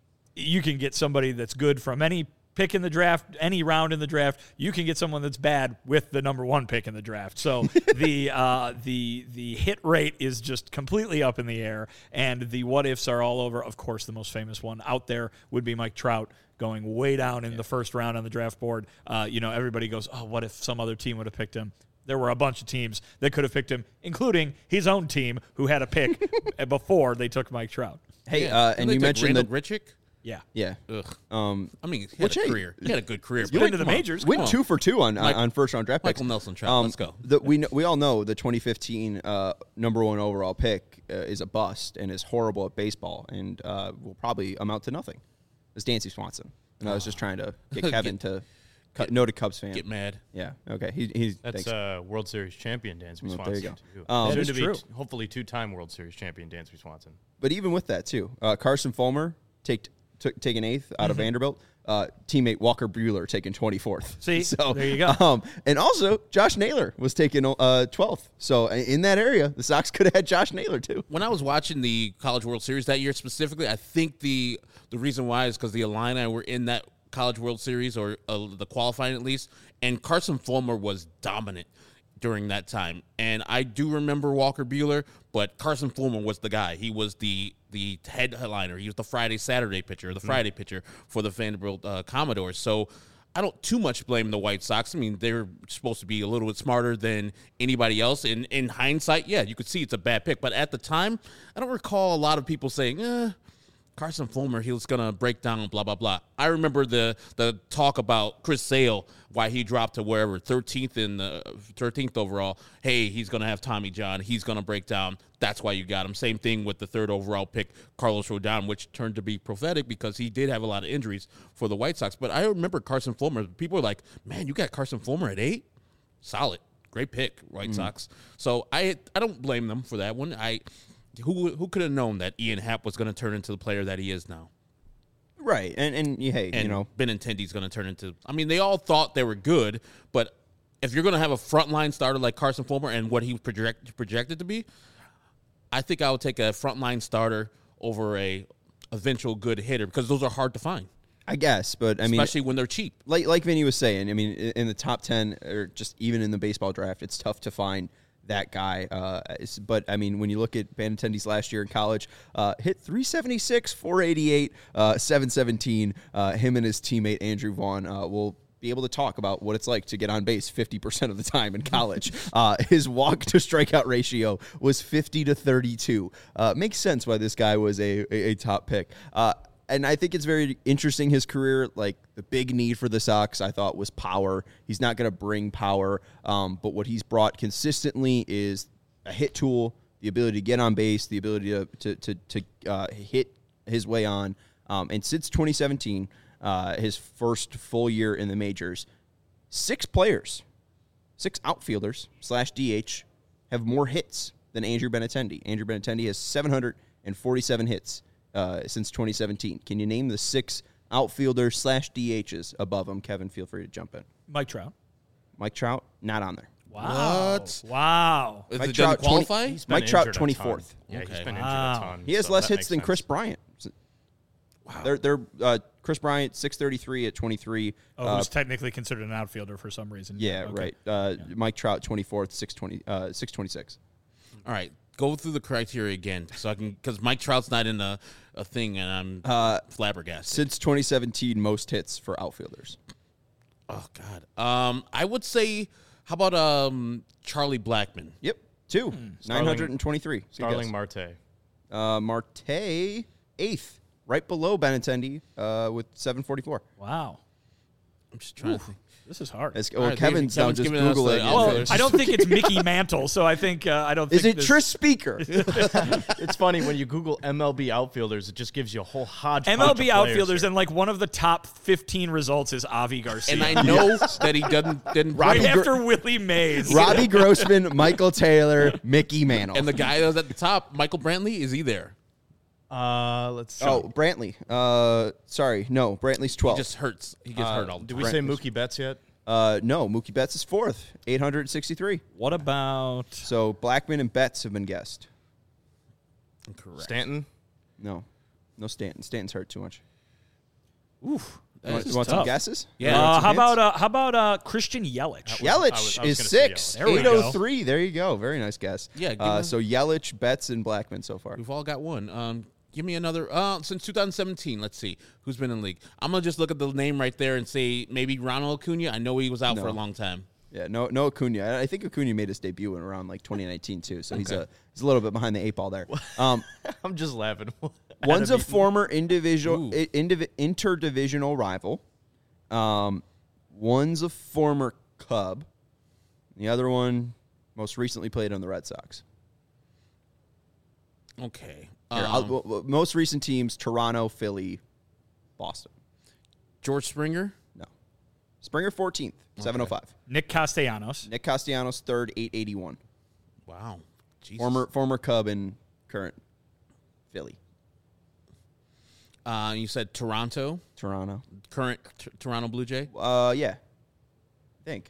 you can get somebody that's good from any pick in the draft, any round in the draft. You can get someone that's bad with the number one pick in the draft. So the uh, the the hit rate is just completely up in the air, and the what ifs are all over. Of course, the most famous one out there would be Mike Trout going way down in yeah. the first round on the draft board. Uh, you know, everybody goes, "Oh, what if some other team would have picked him?" There were a bunch of teams that could have picked him, including his own team, who had a pick before they took Mike Trout. Hey, yeah. uh, and you mentioned Randall that Grichuk. Yeah. Yeah. Ugh. Um, I mean, he had which, a hey, career. He had a good career. Been to the majors. Went two for two on Mike, on first round draft picks. Michael Nelson Trout. Um, Let's go. The, we we all know the twenty fifteen uh, number one overall pick uh, is a bust and is horrible at baseball and uh, will probably amount to nothing. It's Dansby Swanson, and I was just trying to get Kevin Get- to cut, noted Cubs fan. Get mad. Yeah. Okay. He, he's That's thanks. uh, World Series champion Dansby Well, Swanson. there you go. Too. Um, Soon That to is be true. t- hopefully two-time World Series champion Dansby Swanson. But even with that too, uh, Carson Fulmer take took taken eighth out of Vanderbilt. Uh, teammate Walker Buehler taken twenty-fourth. See, so there you go. Um, and also Josh Naylor was taken uh, twelfth. So in that area, the Sox could have had Josh Naylor too. When I was watching the College World Series that year specifically, I think the the reason why is because the Illini were in that College World Series, or uh, the qualifying at least, and Carson Fulmer was dominant during that time. And I do remember Walker Buehler, but Carson Fulmer was the guy. He was the the headliner. He was the Friday, Saturday pitcher, the Friday pitcher for the Vanderbilt uh, Commodores. So I don't too much blame the White Sox. I mean, they're supposed to be a little bit smarter than anybody else. In in hindsight, yeah, you could see it's a bad pick. But at the time, I don't recall a lot of people saying, eh, Carson Fulmer, he was going to break down, blah, blah, blah. I remember the the talk about Chris Sale, why he dropped to wherever, thirteenth in the thirteenth overall. Hey, he's going to have Tommy John. He's going to break down. That's why you got him. Same thing with the third overall pick, Carlos Rodon, which turned to be prophetic because he did have a lot of injuries for the White Sox. But I remember Carson Fulmer. People were like, man, you got Carson Fulmer at eight? Solid. Great pick, White mm. Sox. So I I don't blame them for that one. I... Who who could have known that Ian Happ was going to turn into the player that he is now? Right, and and hey, and you know, Benintendi's going to turn into. I mean, they all thought they were good, but if you're going to have a frontline starter like Carson Fulmer and what he was project, projected to be, I think I would take a frontline starter over a eventual good hitter because those are hard to find. I guess, but I mean, especially when they're cheap. Like like Vinny was saying, I mean, in the top ten or just even in the baseball draft, it's tough to find that guy. Uh, but, I mean, when you look at Benintendi's last year in college, uh, hit three seventy-six, four eighty-eight, uh, seven seventeen. Uh, him and his teammate Andrew Vaughn uh, will be able to talk about what it's like to get on base fifty percent of the time in college. uh, his walk to strikeout ratio was fifty to thirty-two. Uh, makes sense why this guy was a, a, a top pick. Uh, And I think it's very interesting, his career. Like, the big need for the Sox, I thought, was power. He's not going to bring power, um, but what he's brought consistently is a hit tool, the ability to get on base, the ability to to to, to uh, hit his way on. Um, and since twenty seventeen, uh, his first full year in the majors, six players, six outfielders slash D H have more hits than Andrew Benintendi. Andrew Benintendi has seven hundred forty-seven hits uh, since twenty seventeen. Can you name the six outfielders slash D Hs above him? Kevin, feel free to jump in. Mike Trout. Mike Trout, not on there. Wow. What? Wow. Is Mike it Trout, doesn't qualify? twenty He's been Mike Trout, injured a ton. twenty-fourth. Yeah, Okay. he's been Wow. injured a ton. He has so less that hits makes than sense. Chris Bryant. Wow. They're, they're uh, Chris Bryant, six thirty-three at twenty-three. Oh, uh, who's technically considered an outfielder for some reason. yeah, Okay. right. Uh, Mike Trout, twenty-fourth, six twenty, uh, six twenty-six. All right, go through the criteria again, so I can because Mike Trout's not in a, a thing, and I'm Uh, flabbergasted. Since twenty seventeen, most hits for outfielders. Oh God, um, I would say, how about um Charlie Blackmon? Yep, two. nine hundred twenty-three. Good Starling guess. Marte. Uh, Marte, eighth, right below Benintendi uh, with seven forty-four. Wow. I'm just trying to think. This is hard. As, well, All right, Kevin's now Kevin's just giving us Googling. the it. well, outfielders. I don't think it's Mickey Mantle, so I think uh, I don't. Is think it this, Tris Speaker? It's funny when you Google M L B outfielders, it just gives you a whole hodgepodge. M L B of players outfielders, here. and like one of the top fifteen results is Avi Garcia. And I know that he doesn't didn't right Robbie Gr- after Willie Mays. Robbie Grossman, Michael Taylor, Mickey Mantle. And the guy that was at the top, Michael Brantley, is he there? Uh, let's see. oh, Brantley. Uh, sorry, no, Brantley's He twelve. just hurts. He gets Uh, hurt all the did time. we say Mookie Betts yet? Uh, no, Mookie Betts is fourth, eight hundred sixty-three. What about? So Blackman and Betts have been guessed. Correct. Stanton. No, no Stanton. Stanton's hurt too much. Oof. You want, This is you want some tough. guesses? Yeah. You want Uh, some how hints? about uh, how about uh, Christian Yelich? was- Yelich I was- I was is gonna say six, Yelich. There we eight go. oh three. There you go. Very nice guess. Yeah, give Uh, me- so Yelich, Betts, and Blackman so far. We've all got one. Um, give me another. Uh, since two thousand seventeen, let's see who's been in the league. I'm gonna just look at the name right there and say maybe Ronald Acuna. I know he was out for a No. long time. Yeah, no, no Acuna. I think Acuna made his debut in around like twenty nineteen too. So he's Okay. a he's a little bit behind the eight ball there. Um, I'm just laughing. one's a Adam Eaton. former individual Ooh. i- indiv- interdivisional rival. Um, one's a former Cub. The other one most recently played on the Red Sox. Okay. Here, Um, I'll- well, well, most recent teams: Toronto, Philly, Boston. George Springer. No, Springer fourteenth, seven oh five. Nick Castellanos. Nick Castellanos third, eight eighty-one. Wow. Jesus. Former former Cub and current Philly, Uh, you said Toronto. Toronto. Current t- Toronto Blue Jay. Uh, yeah, I think.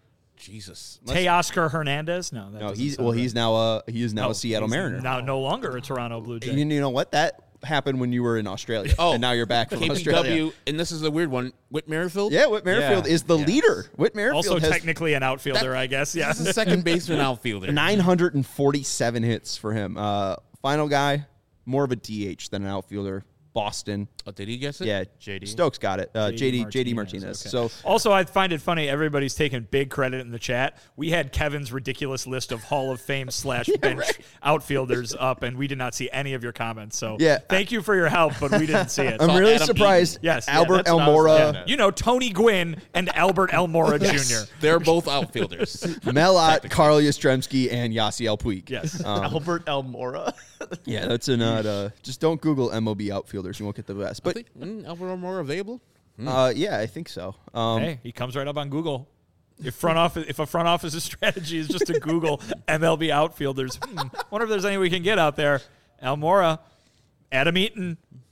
Jesus. Teoscar Hernandez. No, that No, doesn't he's sound well. right. He's now a he is now No, a Seattle he's Mariner. Now no longer a Toronto Blue Jay. You, you know what? That happened when you were in Australia. Oh, and now you're back from K P Australia. W, and this is a weird one. Whit Merrifield. Yeah, Whit Merrifield Yeah. is the Yes. leader. Whit Merrifield Also has technically an outfielder, I guess. Yeah. This is a second baseman outfielder. nine hundred forty-seven hits for him. Uh, final guy, more of a D H than an outfielder. Boston. Oh, did he guess it? Yeah, J D. Stokes got it. Uh, J D J D Martinez, Martinez. okay. So Also, I find it funny. Everybody's taking big credit in the chat. We had Kevin's ridiculous list of Hall of Fame slash bench outfielders up, and we did not see any of your comments. So, Yeah. thank you for your help, but we didn't see it. I'm Saw really Adam surprised. Eaton. Yes, yeah, Albert that's what I was Almora, Yeah. You know, Tony Gwynn and Albert Elmora Junior They're both outfielders. Melot, Carl Yastrzemski, and Yasiel Puig. Yes. Um, Albert Elmora. yeah, that's a not. Uh, just don't Google M O B outfielders. You won't get the best. I But think mm, Albert more available. uh, yeah, I think so. Um, Hey, he comes right up on Google. If front office, if a front office's strategy is just to Google M L B outfielders, hmm, wonder if there's any we can get out there. Almora, Adam Eaton,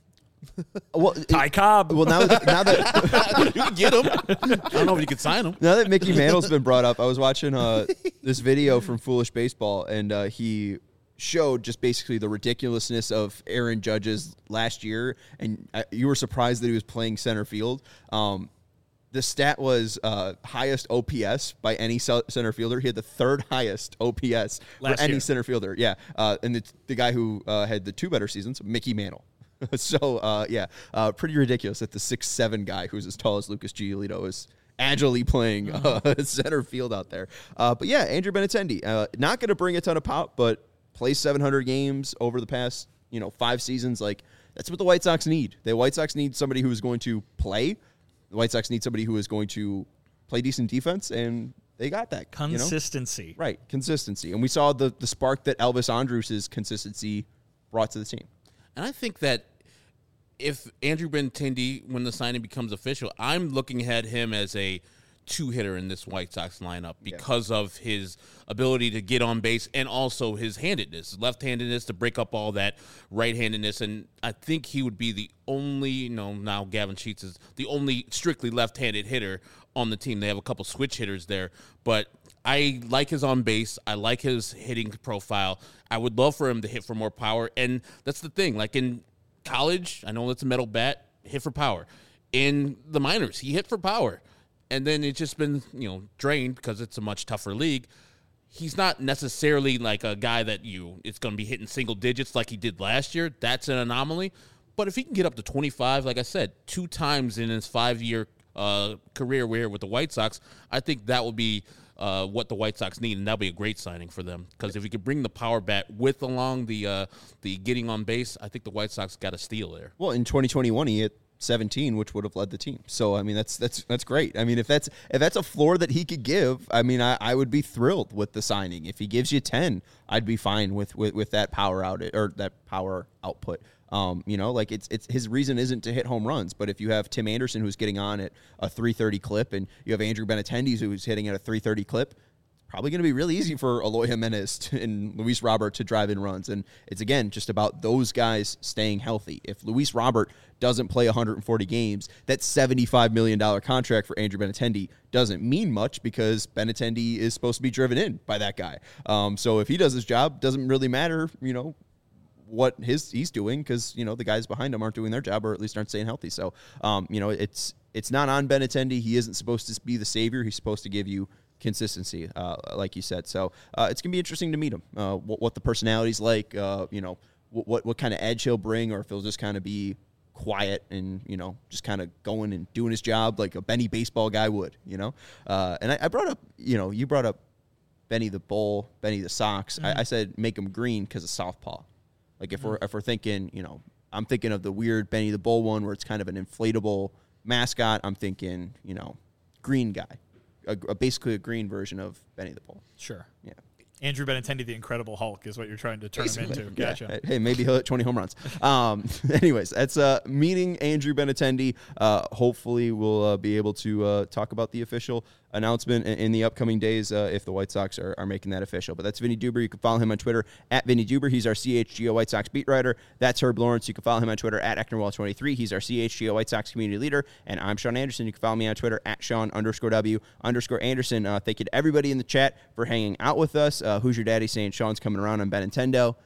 well, Ty Cobb. well now, that- now that You can get him. I don't know if you could sign him. now that Mickey Mantle's been brought up, I was watching uh, this video from Foolish Baseball, and uh, he showed just basically the ridiculousness of Aaron Judge's last year, and uh, you were surprised that he was playing center field. Um, the stat was uh, highest O P S by any ce- center fielder. He had the third highest O P S Last for any year. center fielder. Yeah, uh, and the, the guy who uh, had the two better seasons, Mickey Mantle. so uh, yeah, uh, pretty ridiculous that the six seven guy who's as tall as Lucas Giolito is agilely playing uh, center field out there. Uh, but yeah, Andrew Benintendi, uh, not going to bring a ton of pop, but plays seven hundred games over the past you know five seasons. Like that's what the White Sox need. The White Sox need somebody who is going to play. The White Sox need somebody who is going to play decent defense, and they got that you know? Consistency. Right, consistency. And we saw the, the spark that Elvis Andrus' consistency brought to the team. And I think that if Andrew Benintendi, when the signing becomes official, I'm looking at him as a two-hitter in this White Sox lineup because yeah. of his ability to get on base and also his handedness, left-handedness to break up all that right-handedness. And I think he would be the only, you know, now Gavin Sheets is the only strictly left-handed hitter on the team. They have a couple switch hitters there, but I like his on base. I like his hitting profile. I would love for him to hit for more power. And that's the thing. Like in college, I know it's a metal bat, hit for power. In the minors, he hit for power. And then it's just been, you know, drained because it's a much tougher league. He's not necessarily like a guy that you, it's going to be hitting single digits like he did last year. That's an anomaly. But if he can get up to twenty-five, like I said, two times in his five-year uh, career here with the White Sox, I think that will be uh, what the White Sox need, and that'll be a great signing for them. Because if he could bring the power bat with along the uh, the getting on base, I think the White Sox got a steal there. Well, in twenty twenty-one, he hit seventeen, which would have led the team. So I mean, that's that's that's great. I mean, if that's if that's a floor that he could give, I mean, I, I would be thrilled with the signing. If he gives you ten, I'd be fine with with, with that power out or that power output. Um, you know, like it's it's his reason isn't to hit home runs, but if you have Tim Anderson who's getting on at a three thirty clip, and you have Andrew Benintendi who's hitting at a three thirty clip, probably going to be really easy for Eloy Jimenez to, and Luis Robert to drive in runs. And it's, again, just about those guys staying healthy. If Luis Robert doesn't play one hundred forty games, that seventy-five million dollars contract for Andrew Benintendi doesn't mean much because Benintendi is supposed to be driven in by that guy. Um, so if he does his job, doesn't really matter, you know, what his he's doing because, you know, the guys behind him aren't doing their job or at least aren't staying healthy. So, um, you know, it's it's not on Benintendi. He isn't supposed to be the savior. He's supposed to give you consistency, uh, like you said. So uh, it's going to be interesting to meet him, uh, what, what the personality's like, uh, you know, what, what what kind of edge he'll bring, or if he'll just kind of be quiet and, you know, just kind of going and doing his job like a Benny baseball guy would, you know. Uh, and I, I brought up, you know, you brought up Benny the Bull, Benny the Sox. Mm-hmm. I, I said make him green because of southpaw. Like if mm-hmm. we're if we're thinking, you know, I'm thinking of the weird Benny the Bull one where it's kind of an inflatable mascot. I'm thinking, you know, green guy. A, a, basically a green version of Benny the Bull. Sure. Yeah. Andrew Benintendi, the Incredible Hulk, is what you're trying to turn basically. him into. Gotcha. Yeah. Hey, maybe he'll hit twenty home runs. Um, anyways, that's uh, meeting Andrew Benintendi. Uh, hopefully, we'll uh, be able to uh, talk about the official announcement in, in the upcoming days uh, if the White Sox are, are making that official. But that's Vinny Duber. You can follow him on Twitter at Vinny Duber. He's our C H G O White Sox beat writer. That's Herb Lawrence. You can follow him on Twitter at Ecknerwall twenty-three. He's our C H G O White Sox community leader. And I'm Sean Anderson. You can follow me on Twitter at Sean underscore W underscore Anderson. Uh, thank you to everybody in the chat for hanging out with us. Uh, who's your daddy saying Sean's coming around on Benintendi?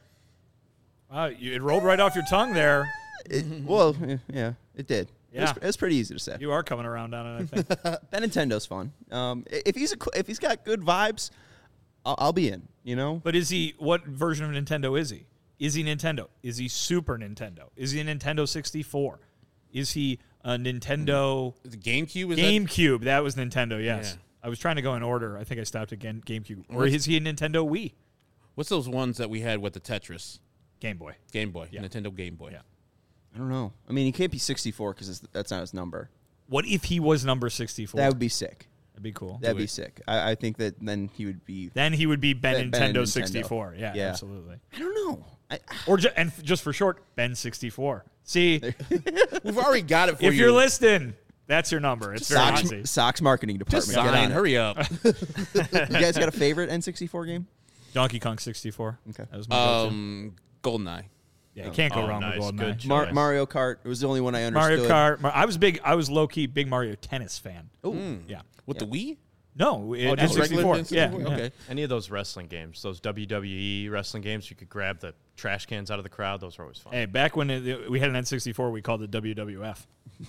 Wow, you, it rolled right off your tongue there. It, well, yeah, it did. Yeah. It was, it was pretty easy to say. You are coming around on it, I think. Benintendi's fun. Um, if he's a, if he's got good vibes, I'll, I'll be in. You know. But is he? What version of Nintendo is he? Is he Nintendo? Is he Super Nintendo? Is he a Nintendo sixty-four? Is he a Nintendo? The GameCube. Is GameCube. That? that was Nintendo. Yes. Yeah. I was trying to go in order. I think I stopped at Game, GameCube. Or is he a Nintendo Wii? What's those ones that we had with the Tetris? Game Boy. Game Boy. Yeah. Nintendo Game Boy. Yeah. I don't know. I mean, he can't be sixty-four because that's not his number. What if he was number sixty-four? That would be sick. That'd be cool. That'd be sick. I, I think that then he would be. Then he would be Ben, Ben, Nintendo, Ben Nintendo sixty-four. Yeah, yeah, absolutely. I don't know. I, Or ju- and f- just for short, Ben sixty-four. See, We've already got it for if you. you're listening, that's your number. It's very Sox, easy. Sox marketing department. Just Get on sign. it. Hurry up. You guys got a favorite N sixty-four game? Donkey Kong sixty-four. Okay. That was my go-to. um, GoldenEye. Yeah, you can't go Oh, wrong nice. with Good GoldenEye. Mar- choice. Mario Kart. It was the only one I Mario understood. Kart. Mar- I was big. I was low key big Mario Tennis fan. Oh, Yeah. With the Wii? No, it, Oh, just N sixty-four. regular N Yeah, sixty-four? yeah. Okay. Any of those wrestling games, those W W E wrestling games, you could grab the trash cans out of the crowd. Those were always fun. Hey, back when it, we had an N sixty-four, we called it W W F.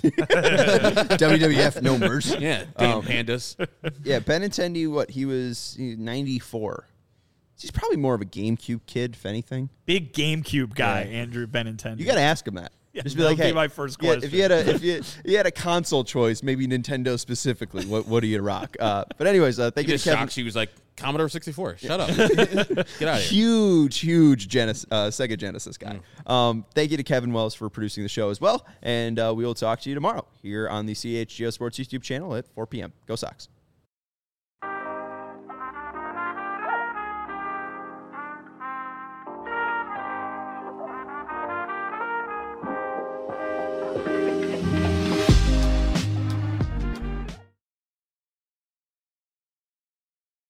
W W F No Mercy. Yeah. Damn Um, pandas. Yeah, Benintendi. What he was he was ninety-four. He's probably more of a GameCube kid, if anything. Big GameCube guy, Yeah. Andrew Benintendi. You got to ask him that. Yeah, Just be that like, would be hey, my first yeah, if question. you had a if you you had a console choice, maybe Nintendo specifically, what what do you rock? Uh, but anyways, uh, thank He you just to Kevin. shocked. She was like, Commodore sixty-four. Shut up. Get out of here. Huge, huge Genesis, uh, Sega Genesis guy. Um, thank you to Kevin Wells for producing the show as well, and uh, we will talk to you tomorrow here on the C H G O Sports YouTube channel at four p.m. Go Sox.